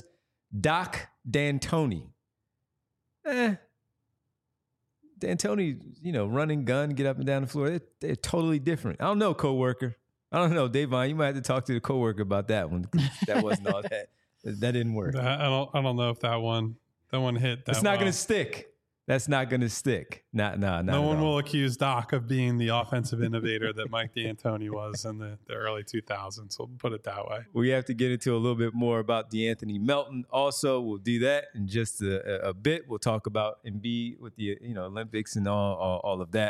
Doc D'Antoni. Eh. D'Antoni, you know, running gun, get up and down the floor. They're, they're totally different. I don't know, coworker. I don't know, Davon. You might have to talk to the coworker about that one. That wasn't all that. That didn't work. I don't I don't know if that one that one hit. That That's not well. going to stick. That's not going to stick. Not, nah, not No at one all. will accuse Doc of being the offensive innovator that Mike D'Antoni was in the, the early two thousands. We'll put it that way. We have to get into a little bit more about DeAnthony Melton. Also, we'll do that in just a, a bit. We'll talk about Embiid with the you know Olympics and all, all all of that.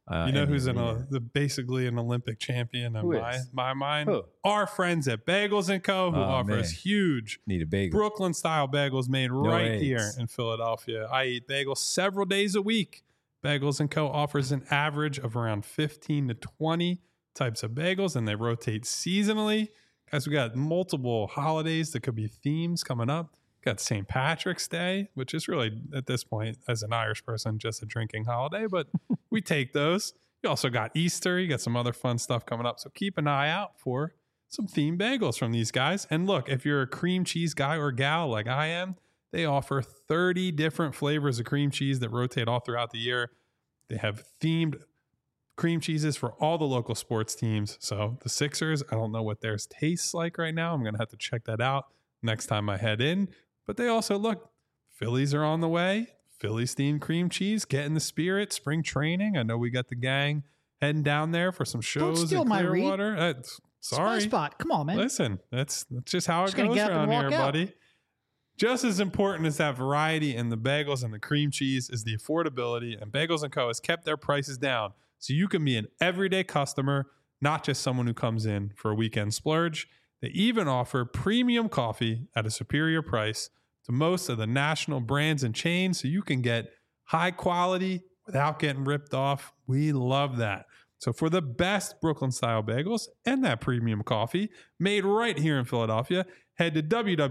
Uh, You know and who's the in a, arena. the basically an Olympic champion in Who my, is? my mind? Who? Our friends at Bagels and Co. who Oh, offers man. huge Need a bagel. Brooklyn style bagels made right eggs. here in Philadelphia. I eat bagels several days a week. Bagels and Co. offers an average of around fifteen to twenty types of bagels, and they rotate seasonally. Guys, we got multiple holidays that could be themes coming up. Got Saint Patrick's Day, which is really, at this point, as an Irish person, just a drinking holiday, but we take those. You also got Easter. You got some other fun stuff coming up. So keep an eye out for some themed bagels from these guys. And look, if you're a cream cheese guy or gal like I am, they offer thirty different flavors of cream cheese that rotate all throughout the year. They have themed cream cheeses for all the local sports teams. So the Sixers, I don't know what theirs tastes like right now. I'm going to have to check that out next time I head in. But they also, look, Phillies are on the way. Phillies themed cream cheese, get in the spirit, spring training. I know we got the gang heading down there for some shows steal in my read. Clearwater. Uh, sorry. Spy spot. Come on, man. Listen, that's, that's just how it Just gonna goes get up and around here, walk out. buddy. Just as important as that variety in the bagels and the cream cheese is the affordability, and Bagels and Co. has kept their prices down so you can be an everyday customer, not just someone who comes in for a weekend splurge. They even offer premium coffee at a superior price to most of the national brands and chains, so you can get high quality without getting ripped off. We love that. So for the best Brooklyn style bagels and that premium coffee made right here in Philadelphia, head to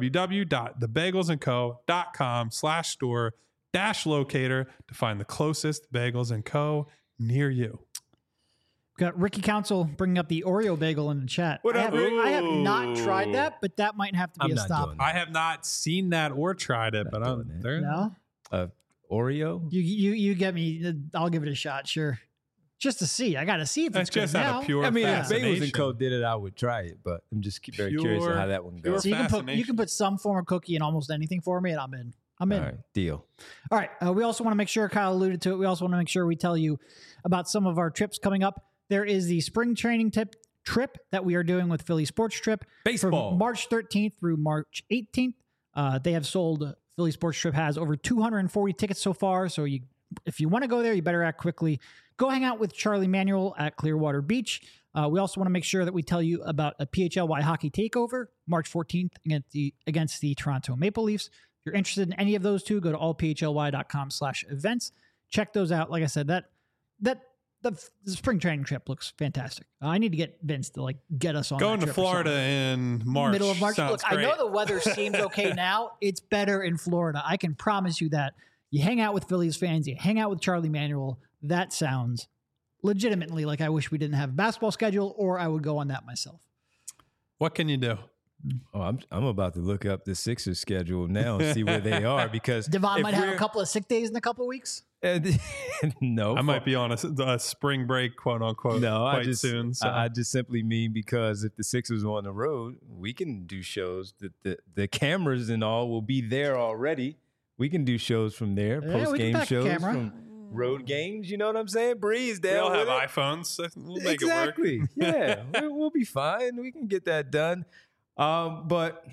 www.thebagelsandco.com slash store dash locator to find the closest Bagels and Co. near you. Got Ricky Council bringing up the Oreo bagel in the chat. What I up? have, I have not Ooh. tried that, but that might have to be I'm a not stop. doing that. I have not seen that or tried it, Not but I'm doing that. there. No, Uh, Oreo? you you you get me. I'll give it a shot. Sure, just to see. I got to see if That's it's good just out now. of pure I mean, if fascination. Bagels and Co. did it, I would try it, but I'm just very curious Pure- of how that one pure goes. So you can put you fascination. can put some form of cookie in almost anything for me, and I'm in. I'm in. All right, deal. All right. Uh, we also want to make sure, Kyle alluded to it, we also want to make sure we tell you about some of our trips coming up. There is the spring training tip trip that we are doing with Philly Sports Trip. Baseball. From March thirteenth through March eighteenth. Uh, they have sold, Philly Sports Trip has over two hundred forty tickets so far. So you, if you want to go there, you better act quickly. Go hang out with Charlie Manuel at Clearwater Beach. Uh, we also want to make sure that we tell you about a P H L Y hockey takeover, March fourteenth against the, against the Toronto Maple Leafs. If you're interested in any of those two, go to all p h l y dot com slash events. Check those out. Like I said, that that the, the spring training trip looks fantastic. Uh, I need to get Vince to like get us on Going that to trip or Florida something. in March. Middle of March. Sounds Look, great. I know the weather seems okay now. It's better in Florida. I can promise you that. You hang out with Phillies fans, you hang out with Charlie Manuel. That sounds legitimately like I wish we didn't have a basketball schedule, or I would go on that myself. What can you do? Oh, I'm I'm about to look up the Sixers schedule now and see where they are because Devon if might have a we're- couple of sick days in a couple of weeks. And- no, I might be on a, a spring break, quote unquote, No, quite I just soon. So. I, I just simply mean because if the Sixers are on the road, we can do shows. The the, the cameras and all will be there already. We can do shows from there, Yeah, we post can game pack a shows camera. from road games. You know what I'm saying? Breeze we down. all have with it. iPhones. We'll make exactly. it work. yeah, we, we'll be fine. We can get that done. Um, but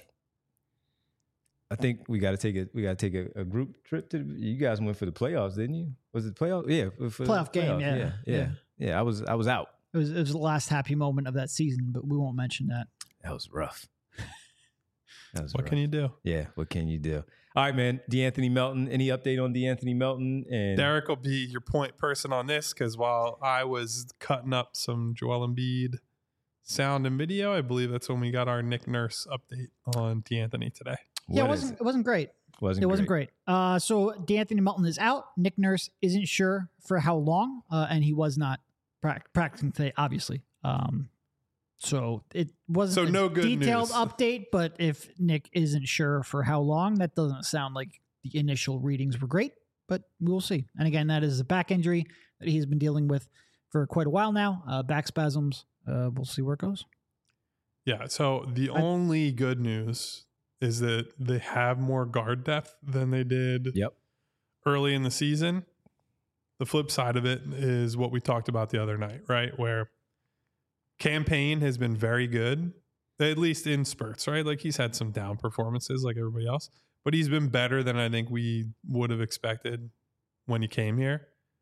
I think we got to take a we got to take a, a group trip to. The, you guys went for the playoffs, didn't you? Was it playoff? Yeah, for the Playoff game, playoffs. yeah. yeah, yeah, Yeah. yeah. I was I was out. It was, it was the last happy moment of that season, but we won't mention that. That was rough. That was What rough. can you do? Yeah, what can you do? All right, man. DeAnthony Melton. Any update on DeAnthony Melton? And Derek will be your point person on this because while I was cutting up some Joel Embiid sound and video, I believe that's when we got our Nick Nurse update on DeAnthony today. yeah, it what is wasn't it wasn't great. Wasn't It wasn't great. Uh, so DeAnthony Melton is out. Nick Nurse isn't sure for how long, uh, and he was not prac- practicing today, obviously. Um, so it wasn't So a no good detailed news. update, but if Nick isn't sure for how long, that doesn't sound like the initial readings were great, but we'll see. And again, that is a back injury that he's been dealing with for quite a while now, uh, back spasms. Uh, we'll see where it goes. Yeah. So the I- only good news is that they have more guard depth than they did Yep. early in the season. The flip side of it is what we talked about the other night, right? Where Campaign has been very good, at least in spurts, right? Like he's had some down performances like everybody else, but he's been better than I think we would have expected when he came here.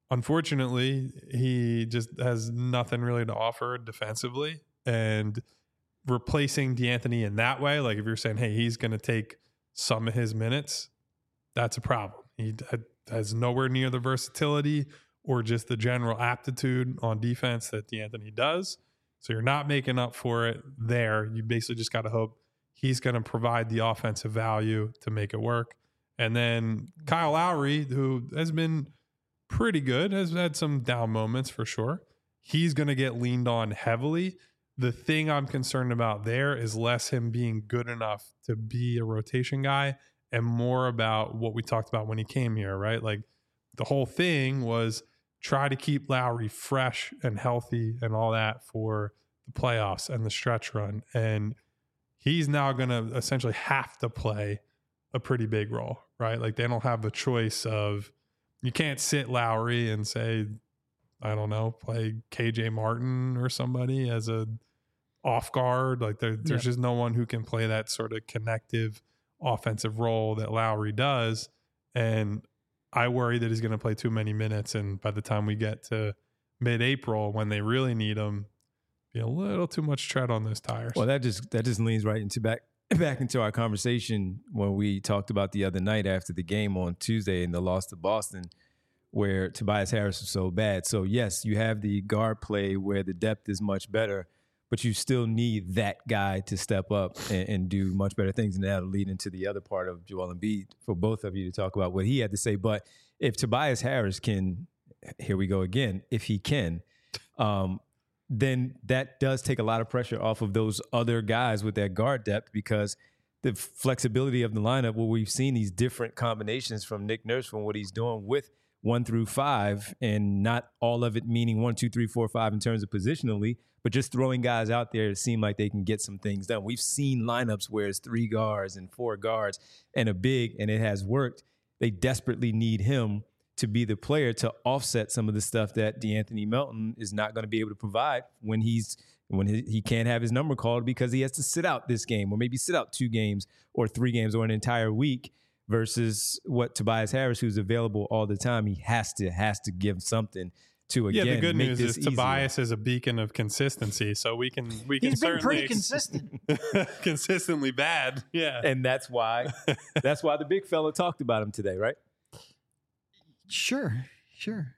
unfortunately, he just has nothing really to offer defensively. And replacing D'Anthony in that way, like if you're saying, hey, he's going to take some of his minutes, that's a problem. He has nowhere near the versatility or just the general aptitude on defense that D'Anthony does. So you're not making up for it there. You basically just got to hope he's going to provide the offensive value to make it work. And then Kyle Lowry, who has been pretty good, has had some down moments for sure. He's going to get leaned on heavily. The thing I'm concerned about there is less him being good enough to be a rotation guy and more about what we talked about when he came here, right? Like the whole thing was try to keep Lowry fresh and healthy and all that for the playoffs and the stretch run. And he's now going to essentially have to play a pretty big role, right? Like they don't have the choice of, you can't sit Lowry and say, I don't know, play K J Martin or somebody as a off guard. Like there, there's yeah. just no one who can play that sort of connective offensive role that Lowry does. And I worry that he's going to play too many minutes. And by the time we get to mid-April, when they really need him, be a little too much tread on those tires. Well, that just that just leans right into back back into our conversation when we talked about the other night after the game on Tuesday and the loss to Boston, where Tobias Harris was so bad. So yes, you have the guard play where the depth is much better, but you still need that guy to step up and, and do much better things. And that'll lead into the other part of Joel Embiid for both of you to talk about what he had to say. But if Tobias Harris can, here we go again, if he can, um, then that does take a lot of pressure off of those other guys with that guard depth, because the flexibility of the lineup, where we've seen these different combinations from Nick Nurse from what he's doing with one through five, and not all of it meaning one, two, three, four, five in terms of positionally, but just throwing guys out there to seem like they can get some things done. We've seen lineups where it's three guards and four guards and a big, and it has worked. They desperately need him to be the player to offset some of the stuff that D'Anthony Melton is not going to be able to provide when he's when he, he can't have his number called because he has to sit out this game, or maybe sit out two games or three games or an entire week, versus what Tobias Harris, who's available all the time, he has to has to give something to, again, yeah, the good make news this is Tobias is a beacon of consistency, so we can we can He's been certainly pretty ex- consistent. consistently bad, yeah, and that's why that's why the big fella talked about him today, right? Sure, sure.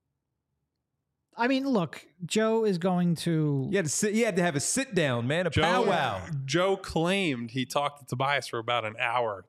I mean, look, Joe is going to. You had to, sit, you had to have a sit down, man, a Joe, powwow. Joe claimed he talked to Tobias for about an hour.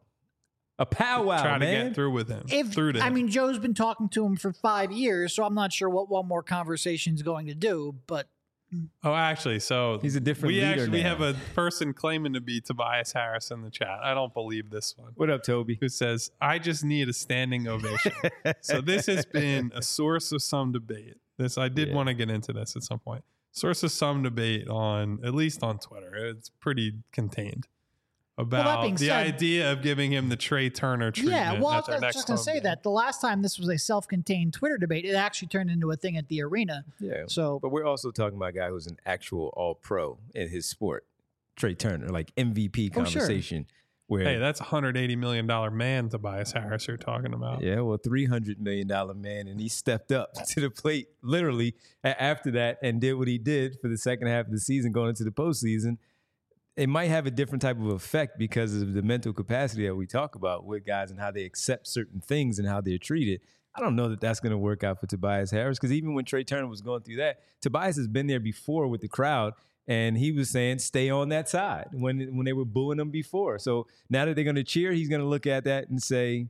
A powwow, Trying man. to get through with him. If through to I him. mean, Joe's been talking to him for five years, so I'm not sure what one more conversation is going to do. But oh, actually, so he's a different we leader actually now. we have a person claiming to be Tobias Harris in the chat. I don't believe this one. What up, Toby? Who says, I just need a standing ovation. So this has been a source of some debate. This I did Yeah. want to get into this at some point. Source of some debate on, at least on Twitter. It's pretty contained. About being the said- idea of giving him the Trey Turner treatment. yeah, well, I at was their next just going to home say game. that the last time this was a self-contained Twitter debate, it actually turned into a thing at the arena. Yeah. So, But we're also talking about a guy who's an actual all-pro in his sport, Trey Turner, like M V P Oh, sure. conversation. Where, Hey, that's a one hundred eighty million dollars man, Tobias Harris, you're talking about. yeah, well, three hundred million dollars man, and he stepped up to the plate literally a- after that and did what he did for the second half of the season going into the postseason. It might have a different type of effect because of the mental capacity that we talk about with guys and how they accept certain things and how they're treated. I don't know that that's going to work out for Tobias Harris, because even when Trey Turner was going through that, Tobias has been there before with the crowd, and he was saying stay on that side when when they were booing him before. So now that they're going to cheer, he's going to look at that and say,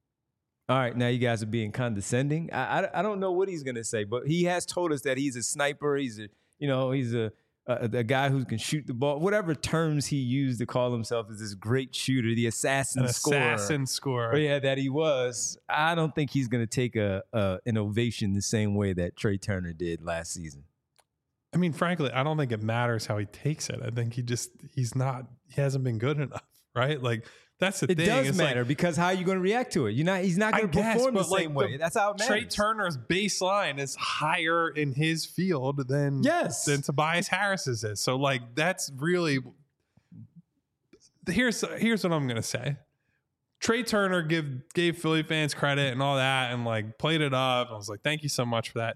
all right, now you guys are being condescending. I, I, I don't know what he's going to say, but he has told us that he's a sniper. He's a, you know, he's a, a, a guy who can shoot the ball, whatever terms he used to call himself as this great shooter, the assassin An scorer. assassin scorer. Oh, yeah, that he was. I don't think he's going to take a, a an ovation the same way that Trey Turner did last season. I mean, frankly, I don't think it matters how he takes it. I think he just, he's not, he hasn't been good enough, right? Like, that's the It thing. does It's matter like, because how are you going to react to it? You're not. He's not I going to guess, perform the but, like, same way. the- That's how it matters. Trey Turner's baseline is higher in his field than, Yes. than Tobias Harris's is. So, like, that's really, here's, here's what I'm going to say. Trey Turner give gave Philly fans credit and all that, and like played it up. I was like, thank you so much for that.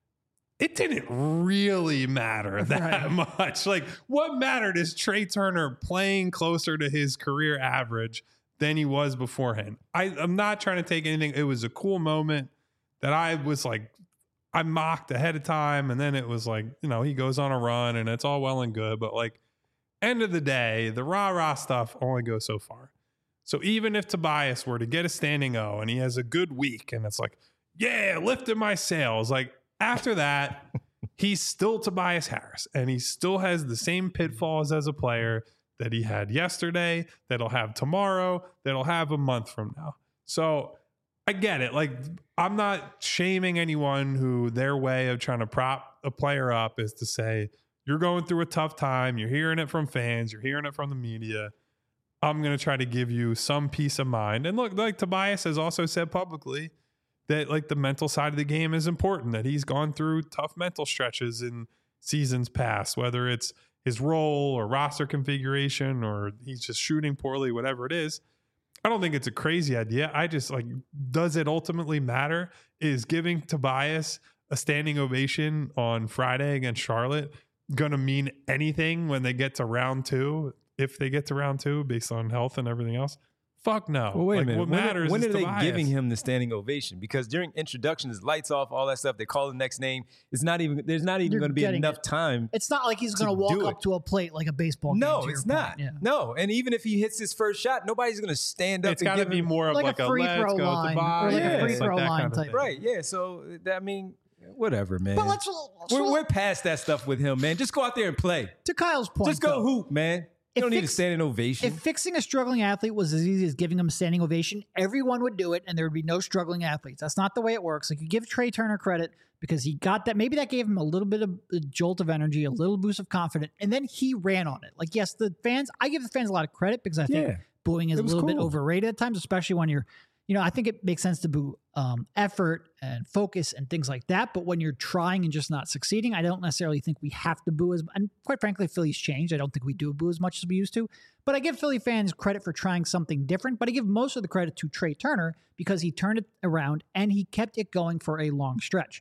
It didn't really matter that right. much. Like, what mattered is Trey Turner playing closer to his career average than he was beforehand. I, I'm not trying to take anything. It was a cool moment that I was like, I mocked ahead of time. And then it was like, you know, he goes on a run and it's all well and good. But like, end of the day, the rah-rah stuff only goes so far. So even if Tobias were to get a standing O and he has a good week and it's like, yeah, lifted my sails, like, after that, he's still Tobias Harris, and he still has the same pitfalls as a player that he had yesterday, that he'll have tomorrow, that he'll have a month from now. So I get it. Like, I'm not shaming anyone who their way of trying to prop a player up is to say, you're going through a tough time. You're hearing it from fans. You're hearing it from the media. I'm going to try to give you some peace of mind. And look, like Tobias has also said publicly, that like the mental side of the game is important, that he's gone through tough mental stretches in seasons past, whether it's his role or roster configuration or he's just shooting poorly, whatever it is. I don't think it's a crazy idea. I just like, does it ultimately matter? Is giving Tobias a standing ovation on Friday against Charlotte going to mean anything when they get to round two, if they get to round two based on health and everything else? Fuck no. Well, wait like, a minute. What when matters when is are they Tobias. giving him the standing ovation? Because during introductions, lights off, all that stuff, they call the next name. It's not even. There's not even going to be enough it. time. It's not like he's going to walk up to a plate like a baseball game. No, it's not. Yeah. No, and even if he hits his first shot, nobody's going to stand up. It's got to be more of like, like a, a free throw line, or like yeah. a free throw like line kind of type. Right? Yeah. So I mean, whatever, man. But let's. We're, we're past that stuff with him, man. Just go out there and play. To Kyle's point, just go though, hoop, man. You don't fix, need a standing ovation. If fixing a struggling athlete was as easy as giving him a standing ovation, everyone would do it and there would be no struggling athletes. That's not the way it works. Like, you give Trey Turner credit because he got that. Maybe that gave him a little bit of a jolt of energy, a little boost of confidence, and then he ran on it. Like, yes, the fans, I give the fans a lot of credit because I think yeah, booing is a little cool. bit overrated at times, especially when you're, you know, I think it makes sense to boo um, effort and focus and things like that. But when you're trying and just not succeeding, I don't necessarily think we have to boo as, and quite frankly, Philly's changed. I don't think we do boo as much as we used to. But I give Philly fans credit for trying something different. But I give most of the credit to Trey Turner because he turned it around and he kept it going for a long stretch.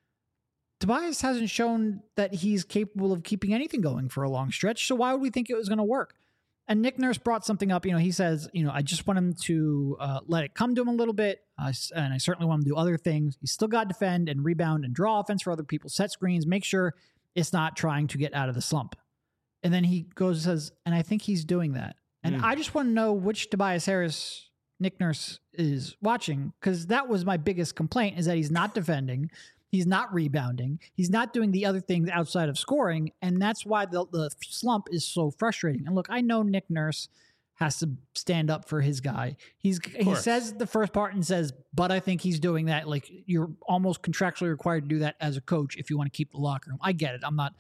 Tobias hasn't shown that he's capable of keeping anything going for a long stretch. So why would we think it was going to work? And Nick Nurse brought something up. You know, he says, you know, I just want him to uh, let it come to him a little bit. Uh, and I certainly want him to do other things. He's still got to defend and rebound and draw offense for other people, set screens, make sure it's not trying to get out of the slump. And then he goes and says, and I think he's doing that. And mm. I just want to know which Tobias Harris Nick Nurse is watching, because that was my biggest complaint, is that he's not defending. He's not rebounding. He's not doing the other things outside of scoring. And that's why the, the slump is so frustrating. And look, I know Nick Nurse has to stand up for his guy. He's He says the first part and says, but I think he's doing that. Like, you're almost contractually required to do that as a coach if you want to keep the locker room. I get it. I'm not.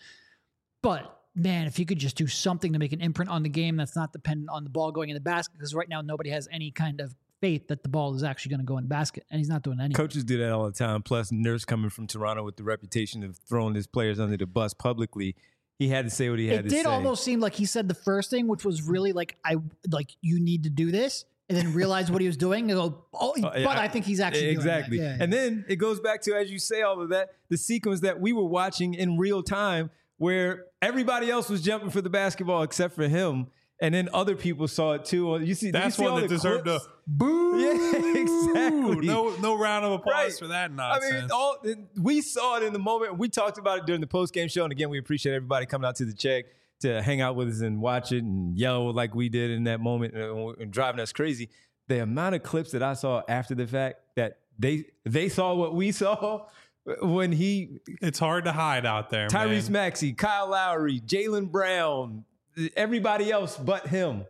But, man, if you could just do something to make an imprint on the game that's not dependent on the ball going in the basket, because right now nobody has any kind of faith that the ball is actually going to go in the basket, and he's not doing anything. Coaches do that all the time. Plus, Nurse coming from Toronto with the reputation of throwing his players under the bus publicly, he had to say what he had it to say. It did almost seem like he said the first thing, which was really like, "I like you need to do this," and then realize what he was doing and go, "Oh, uh, but I, I think he's actually exactly." Doing that. Yeah, yeah. And then it goes back to, as you say all of that, the sequence that we were watching in real time, where everybody else was jumping for the basketball except for him. And then other people saw it too. You see, that's you see one that deserved clips? a boo. Yeah, exactly. No, no round of applause right. for that nonsense. I mean, all, we saw it in the moment. We talked about it during the post game show, and again, we appreciate everybody coming out to the check to hang out with us and watch it and yell like we did in that moment and, and driving us crazy. The amount of clips that I saw after the fact that they they saw what we saw. When he, it's hard to hide out there. Tyrese man. Maxey, Kyle Lowry, Jaylen Brown, everybody else but him,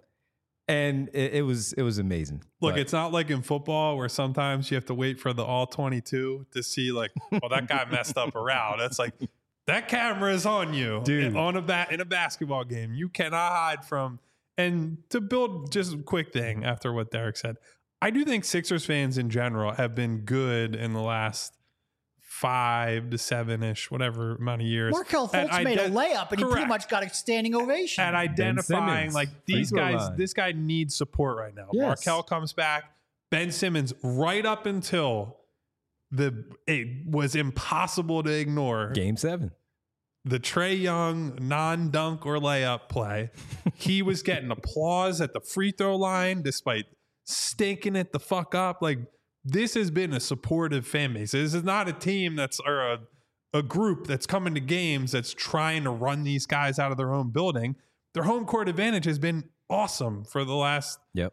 and it, it was it was amazing. Look, but. It's not like in football where sometimes you have to wait for the all twenty-two to see like, well, that guy messed up a route. That's like that camera is on you, dude. On a bat in a basketball game, you cannot hide from. And to build just a quick thing after what Derek said, I do think Sixers fans in general have been good in the last five to seven ish, whatever amount of years. Markelle Fultz made a layup, and correct. he pretty much got a standing ovation. At identifying like these guys, line. this guy needs support right now. Yes. Markelle comes back. Ben Simmons, right up until the it was impossible to ignore. Game seven. The Trae Young non-dunk or layup play. He was getting applause at the free throw line despite stinking it the fuck up. Like, this has been a supportive fan base. This is not a team that's or a, a group that's coming to games that's trying to run these guys out of their own building. Their home court advantage has been awesome for the last yep.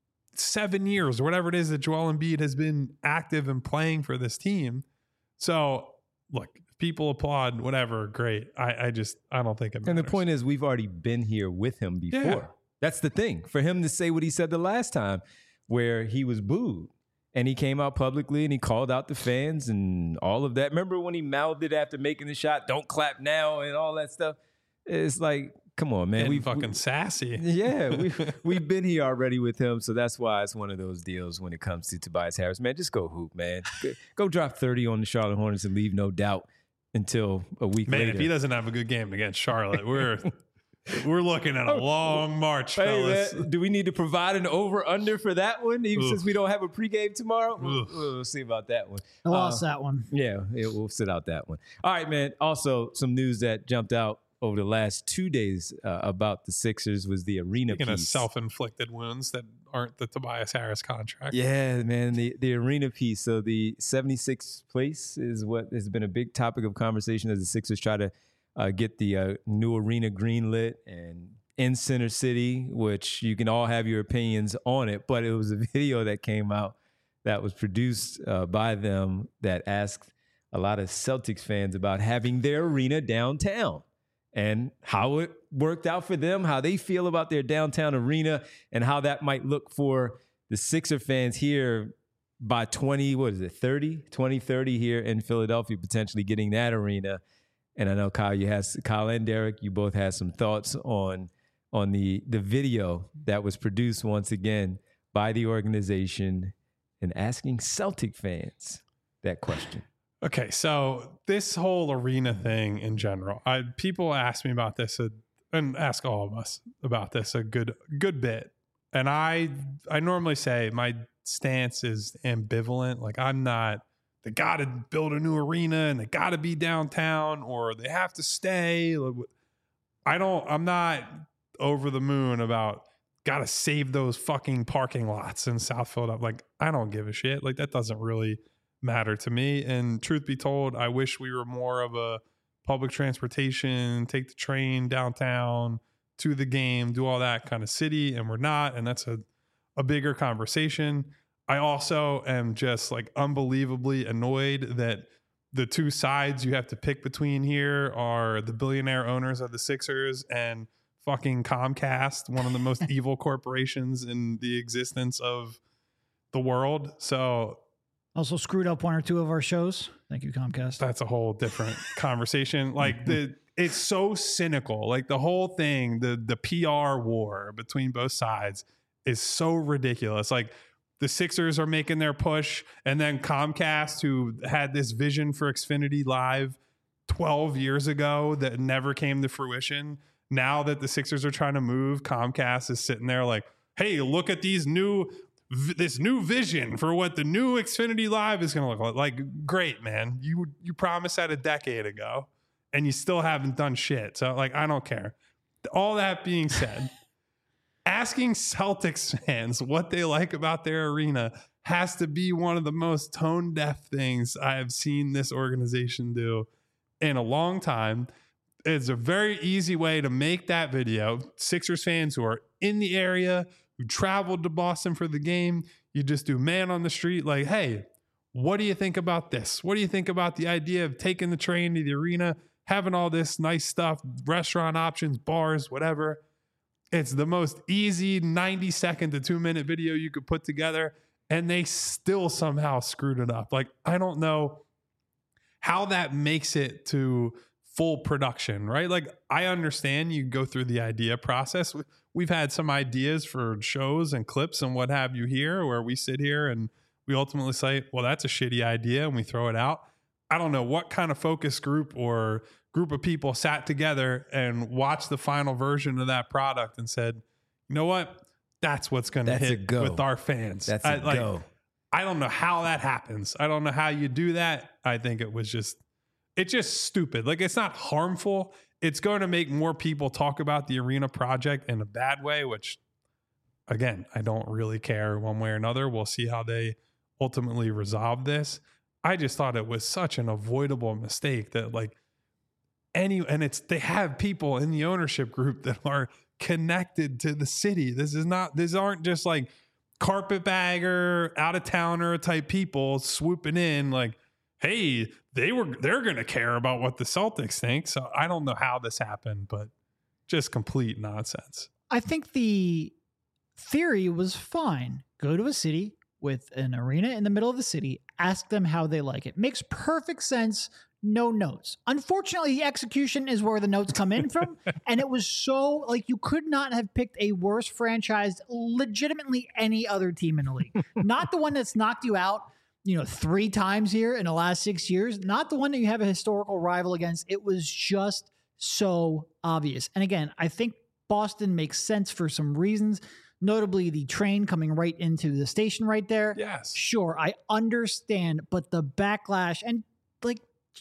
seven years or whatever it is that Joel Embiid has been active and playing for this team. So, look, people applaud, whatever, great. I, I just, I don't think it matters. And the point is, we've already been here with him before. Yeah. That's the thing. For him to say what he said the last time, where he was booed, and he came out publicly and he called out the fans and all of that. Remember when he mouthed it after making the shot, don't clap now, and all that stuff? It's like, come on, man. We fucking we, sassy. Yeah, we we've been here already with him, so that's why it's one of those deals when it comes to Tobias Harris. Man, just go hoop, man. Go, go drop thirty on the Charlotte Hornets and leave no doubt until a week man, later. Man, if he doesn't have a good game against Charlotte, we're we're looking at a long march, hey, fellas. Man, do we need to provide an over-under for that one, even Oof. since we don't have a pregame tomorrow? We'll, we'll see about that one. I lost uh, that one. Yeah, it, we'll sit out that one. All right, man. Also, some news that jumped out over the last two days uh, about the Sixers was the arena Speaking piece. Of self-inflicted wounds that aren't the Tobias Harris contract. Yeah, man, the, the arena piece. So the seventy-sixth place is what has been a big topic of conversation as the Sixers try to uh, get the uh, new arena greenlit and in Center City, which you can all have your opinions on it. But it was a video that came out that was produced uh, by them that asked a lot of Celtics fans about having their arena downtown and how it worked out for them, how they feel about their downtown arena, and how that might look for the Sixer fans here by twenty, what is it, thirty, twenty thirty here in Philadelphia, potentially getting that arena. And I know, Kyle, you has Kyle and Derek, you both had some thoughts on on the the video that was produced once again by the organization and asking Celtic fans that question. Okay, so this whole arena thing in general, I people ask me about this uh, and ask all of us about this a good good bit. And I I normally say my stance is ambivalent. Like, I'm not, they got to build a new arena and they got to be downtown or they have to stay. I don't, I'm not over the moon about got to save those fucking parking lots in South Philadelphia. Like, I don't give a shit. Like, that doesn't really matter to me. And truth be told, I wish we were more of a public transportation, take the train downtown to the game, do all that kind of city, and we're not. And that's a, a bigger conversation. I also am just like unbelievably annoyed that the two sides you have to pick between here are the billionaire owners of the Sixers and fucking Comcast, one of the most evil corporations in the existence of the world. So also screwed up one or two of our shows. Thank you, Comcast. That's a whole different conversation. Like, the it's so cynical. Like, the whole thing, the the P R war between both sides is so ridiculous. Like, the Sixers are making their push, and then Comcast, who had this vision for Xfinity Live twelve years ago that never came to fruition, now that the Sixers are trying to move, Comcast is sitting there like, hey, look at these new this new vision for what the new Xfinity Live is going to look like. Like, great, man. You you promised that a decade ago, and you still haven't done shit. So, like, I don't care. All that being said, asking Celtics fans what they like about their arena has to be one of the most tone-deaf things I have seen this organization do in a long time. It's a very easy way to make that video. Sixers fans who are in the area, who traveled to Boston for the game, you just do man on the street like, hey, what do you think about this? What do you think about the idea of taking the train to the arena, having all this nice stuff, restaurant options, bars, whatever? It's the most easy ninety second to two minute video you could put together, and they still somehow screwed it up. Like, I don't know how that makes it to full production, right? Like, I understand you go through the idea process. We've had some ideas for shows and clips and what have you here, where we sit here and we ultimately say, well, that's a shitty idea, and we throw it out. I don't know what kind of focus group or group of people sat together and watched the final version of that product and said, you know what? That's what's going to hit with our fans. That's I, a like, go. I don't know how that happens. I don't know how you do that. I think it was just, it's just stupid. Like, it's not harmful. It's going to make more people talk about the arena project in a bad way, which, again, I don't really care one way or another. We'll see how they ultimately resolve this. I just thought it was such an avoidable mistake that, like, any, and it's, they have people in the ownership group that are connected to the city. This is not, these aren't just like carpetbagger, out of towner type people swooping in like, hey, they were, they're going to care about what the Celtics think. So I don't know how this happened, but just complete nonsense. I think the theory was fine. Go to a city with an arena in the middle of the city, ask them how they like it. Makes perfect sense. No notes. Unfortunately, the execution is where the notes come in from. And it was so, like, you could not have picked a worse franchise, legitimately any other team in the league. Not the one that's knocked you out, you know, three times here in the last six years. Not the one that you have a historical rival against. It was just so obvious. And again, I think Boston makes sense for some reasons. Notably, the train coming right into the station right there. Yes. Sure, I understand, but the backlash and, like,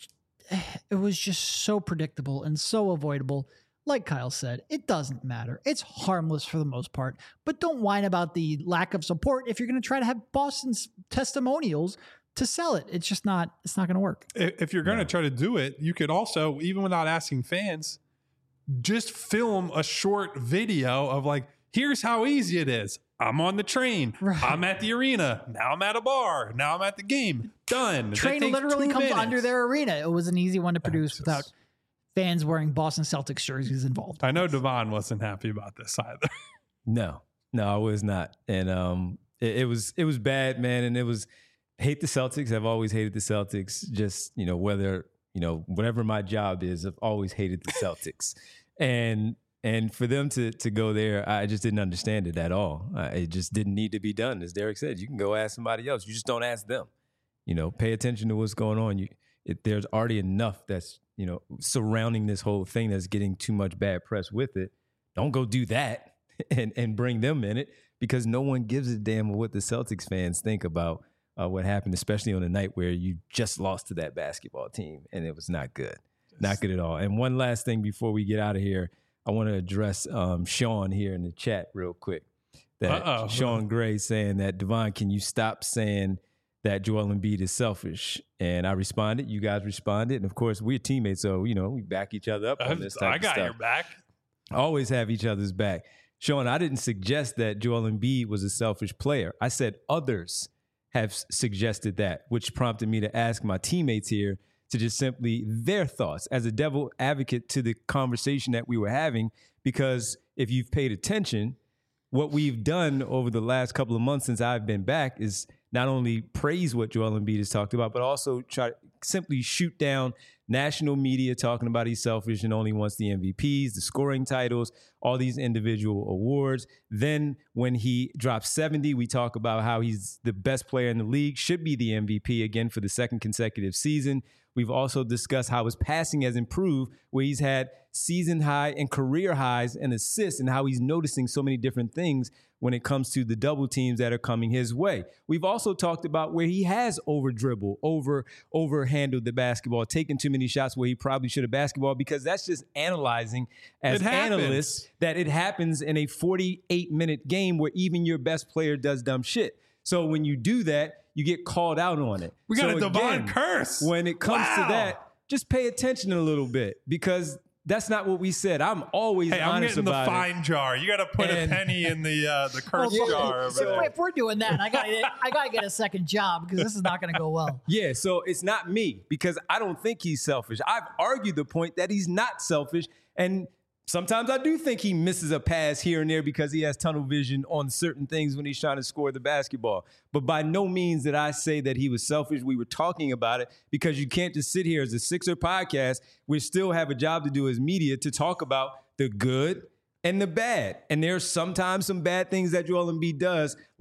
it was just so predictable and so avoidable. Like Kyle said, it doesn't matter. It's harmless for the most part, but don't whine about the lack of support if you're going to try to have Boston's testimonials to sell it. It's just not, it's not going to work. If you're going to try to do it, you could also, even without asking fans, just film a short video of like, here's how easy it is. I'm on the train. Right. I'm at the arena. Now I'm at a bar. Now I'm at the game. Done. Train literally comes minutes. under their arena. It was an easy one to produce just, without fans wearing Boston Celtics jerseys involved. I know Devon wasn't happy about this either. No, no, I was not. And um, it, it was it was bad, man. And it was hate the Celtics. I've always hated the Celtics. Just, you know, whether, you know, whatever my job is, I've always hated the Celtics. and And for them to to go there, I just didn't understand it at all. Uh, it just didn't need to be done. As Derek said, you can go ask somebody else. You just don't ask them. You know, pay attention to what's going on. You, it, there's already enough that's, you know, surrounding this whole thing that's getting too much bad press with it. Don't go do that and, and bring them in it, because no one gives a damn what the Celtics fans think about uh, what happened, especially on a night where you just lost to that basketball team and it was not good. Not good at all. And one last thing before we get out of here, I want to address um, Sean here in the chat real quick. That Uh-oh. Sean Gray saying that, Devon, can you stop saying that Joel Embiid is selfish? And I responded. You guys responded. And, of course, we're teammates, so, you know, we back each other up on this type I of got stuff. your back. Always have each other's back. Sean, I didn't suggest that Joel Embiid was a selfish player. I said others have suggested that, which prompted me to ask my teammates here to just simply their thoughts as a devil advocate to the conversation that we were having. Because if you've paid attention, what we've done over the last couple of months since I've been back is not only praise what Joel Embiid has talked about, but also try to simply shoot down national media talking about he's selfish and only wants the M V Ps, the scoring titles, all these individual awards. Then when he drops seventy, we talk about how he's the best player in the league, should be the M V P again for the second consecutive season. We've also discussed how his passing has improved, where he's had season high and career highs and assists, and how he's noticing so many different things when it comes to the double teams that are coming his way. We've also talked about where he has over dribbled, over over handled the basketball, taken too many shots where he probably should have basketball, because that's just analyzing as analysts that it happens in a forty-eight minute game where even your best player does dumb shit. So when you do that, you get called out on it. We got so a Devon again, curse. When it comes wow. to that, just pay attention a little bit, because that's not what we said. I'm always hey, I'm honest getting about the fine it. jar. You got to put and, a penny in the uh, the curse well, jar. Over so there. If we're doing that, I got I got to get a second job, because this is not going to go well. Yeah, so it's not me, because I don't think he's selfish. I've argued the point that he's not selfish, and sometimes I do think he misses a pass here and there because he has tunnel vision on certain things when he's trying to score the basketball. But by no means did I say that he was selfish. We were talking about it because you can't just sit here as a Sixer podcast. We still have a job to do as media to talk about the good and the bad. And there's sometimes some bad things that Joel Embiid does, like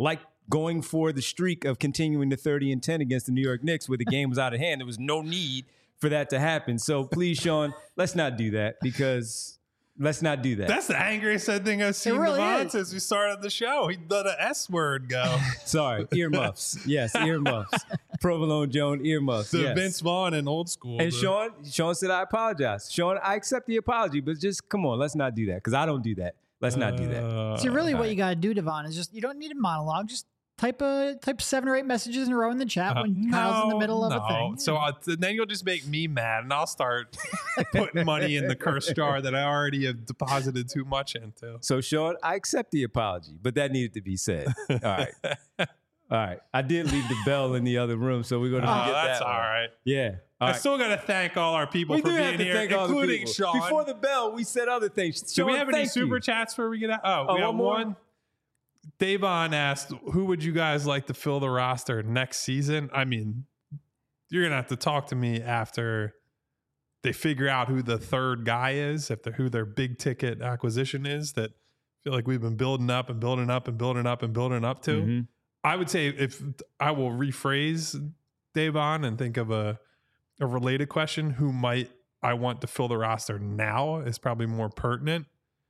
going for the streak of continuing the thirty and ten against the New York Knicks where the game was out of hand. There was no need for that to happen. So please, Sean, let's not do that because let's not do that. That's the angriest thing I've seen really Devon is. since we started the show. He let an S word go. Sorry, earmuffs. Yes, earmuffs. Provolone Joan earmuffs. The yes. Vince Vaughn in old school. And the- Sean, Sean said, I apologize. Sean, I accept the apology, but just come on, let's not do that because I don't do that. Let's not do that. Uh, See, really, what right. you got to do, Devon, is just you don't need a monologue. Just type a type seven or eight messages in a row in the chat Uh, when Kyle's in the no, middle of no. a thing. So uh, then you'll just make me mad, and I'll start putting money in the curse jar that I already have deposited too much into. So, Sean, I accept the apology, but that needed to be said. All right. All right. I did leave the bell in the other room, so we're going to Oh, get that's that all one. right. Yeah. All I right. still got to thank all our people we for do being have to here, thank all the including people. Sean. Before the bell, we said other things. Do Sean, we have any thank super you. chats where we get out? Oh, Oh, we got one more? one. Davon asked, who would you guys like to fill the roster next season? I mean, you're going to have to talk to me after they figure out who the third guy is, if they're, who their big ticket acquisition is that I feel like we've been building up and building up and building up and building up to. Mhm. I would say if I will rephrase Davon and think of a, a related question, who might I want to fill the roster now is probably more pertinent.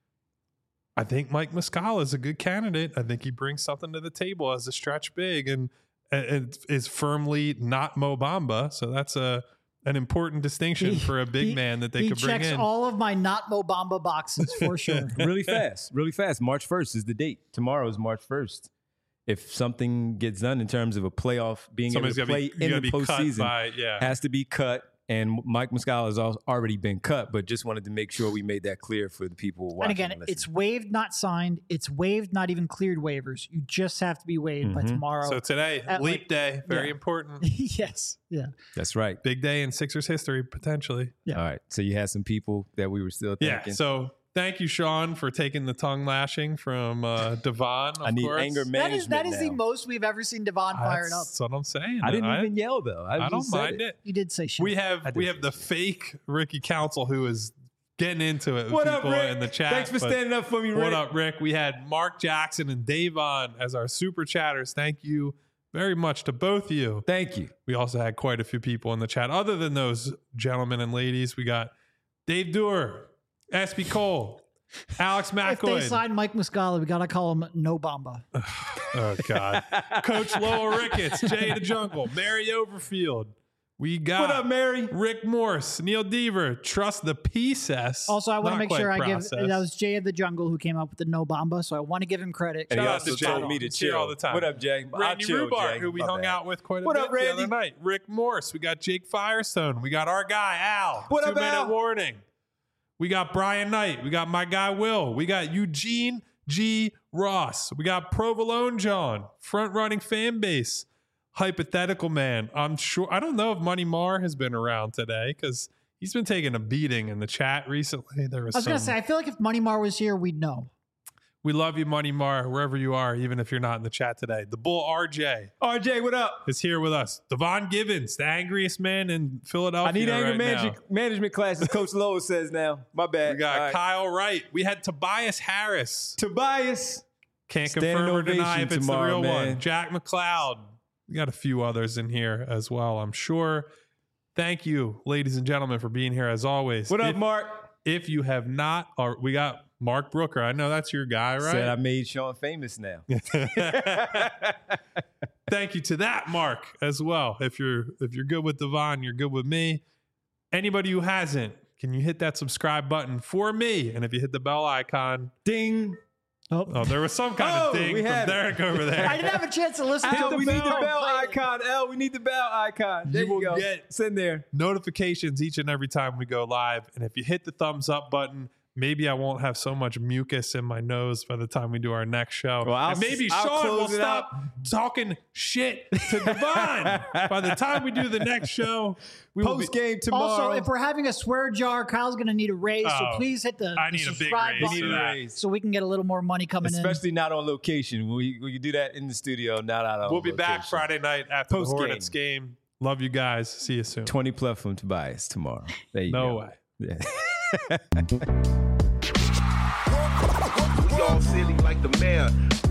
I think Mike Muscala is a good candidate. I think he brings something to the table as a stretch big and, and is firmly not Mo Bamba. So that's a an important distinction He- for a big he- man that they he could bring checks in. all of my not Mo Bamba boxes for sure. Really fast. Really fast. March first is the date. Tomorrow is March first. If something gets done in terms of a playoff, being Somebody's able to got play to be, in gotta the be cut postseason, by, yeah. has to be cut. And Mike Muscala has al- already been cut, but just wanted to make sure we made that clear for the people watching. And again, listening. it's waived, not signed. It's waived, not even cleared waivers. You just have to be waived by Mhm. tomorrow. So today, At leap like- day, very yeah. important. yes. Yeah. That's right. Big day in Sixers history, potentially. Yeah. All right. So you had some people that we were still Yeah. thinking. So thank you, Sean, for taking the tongue lashing from uh, Devon. Of I need course. anger That management is that is the now. most we've ever seen Devon fired up. That's what I'm saying. I didn't even yell though. I, I don't just said mind it. You did say shit. We have I did we have the fake Ricky Council who is getting into it with What up, people Rick? in the chat. Thanks for but standing up for me, Rick. What up, Rick? We had Mark Jackson and Davon as our super chatters. Thank you very much to both of you. Thank you. We also had quite a few people in the chat. Other than those gentlemen and ladies, we got Dave Dewar, S B Cole, Alex if they McCoy. sign Mike Muscala, we gotta call him No Bamba. Oh, God. Coach Lowell Ricketts, Jay the Jungle, Mary Overfield. We got What up, Mary? Rick Morse, Neil Deaver, Trust the P S S. Also, I want to Not make quite sure I give process. that was Jay of the Jungle who came up with the No Bamba, so I want to give him credit. And he Shout out also to Jay. told me to He's here chill all the time. What up, Jay? I'll Randy chill, Rubar, Jay. who we My hung bad. out with quite a What bit up, the Randy? other night. Rick Morse. We got Jake Firestone. We got our guy, Al. What Two up, minute Al? warning. We got Brian Knight. We got my guy, Will. We got Eugene G. Ross. We got Provolone John, front running fan base. Hypothetical man. I'm sure. I don't know if Money Mar has been around today because he's been taking a beating in the chat recently. There was, I was some, gonna say, I feel like if Money Mar was here, we'd know. we love you, Money Mar, wherever you are, even if you're not in the chat today. The Bull R J R J, what up? is here with us. Devon Givens, the angriest man in Philadelphia. I need anger right manage- now. management classes, Coach Lowell says now. My bad. We got All right. Kyle Wright. We had Tobias Harris. Tobias. Can't Standing confirm or deny ovation if it's tomorrow, the real man. one. Jack McLeod. We got a few others in here as well, I'm sure. Thank you, ladies and gentlemen, for being here as always. What up, if, Mark? If you have not, or we got Mark Brooker. I know that's your guy, right? Said I made Sean famous now. Thank you to that Mark as well. If you're if you're good with Devon, you're good with me. Anybody who hasn't, can you hit that subscribe button for me? And if you hit the bell icon, Ding. Oh, oh, there was some kind Oh, of thing we from had it. Derek over there. I didn't have a chance to listen Al, to we the need the bell. bell icon. L, we need the bell icon. There You you, will go. get- It's in there. Notifications each and every time we go live. And if you hit the thumbs up button, maybe I won't have so much mucus in my nose by the time we do our next show. Well, I'll and maybe s- I'll Sean will close it stop talking shit to Devon. By the time we do the next show, we will be, Post game tomorrow. Also, if we're having a swear jar, Kyle's going to need a raise. Oh, so please hit the, I the need a big subscribe raise we button need for a that. raise. so we can get a little more money coming in. Especially not on location. We we can do that in the studio, not out on we'll be back location. Friday night after Post the game. Hornets game. Love you guys. See you soon. twenty plus from Tobias tomorrow. There you No go. way. Yeah. We all silly like the mayor.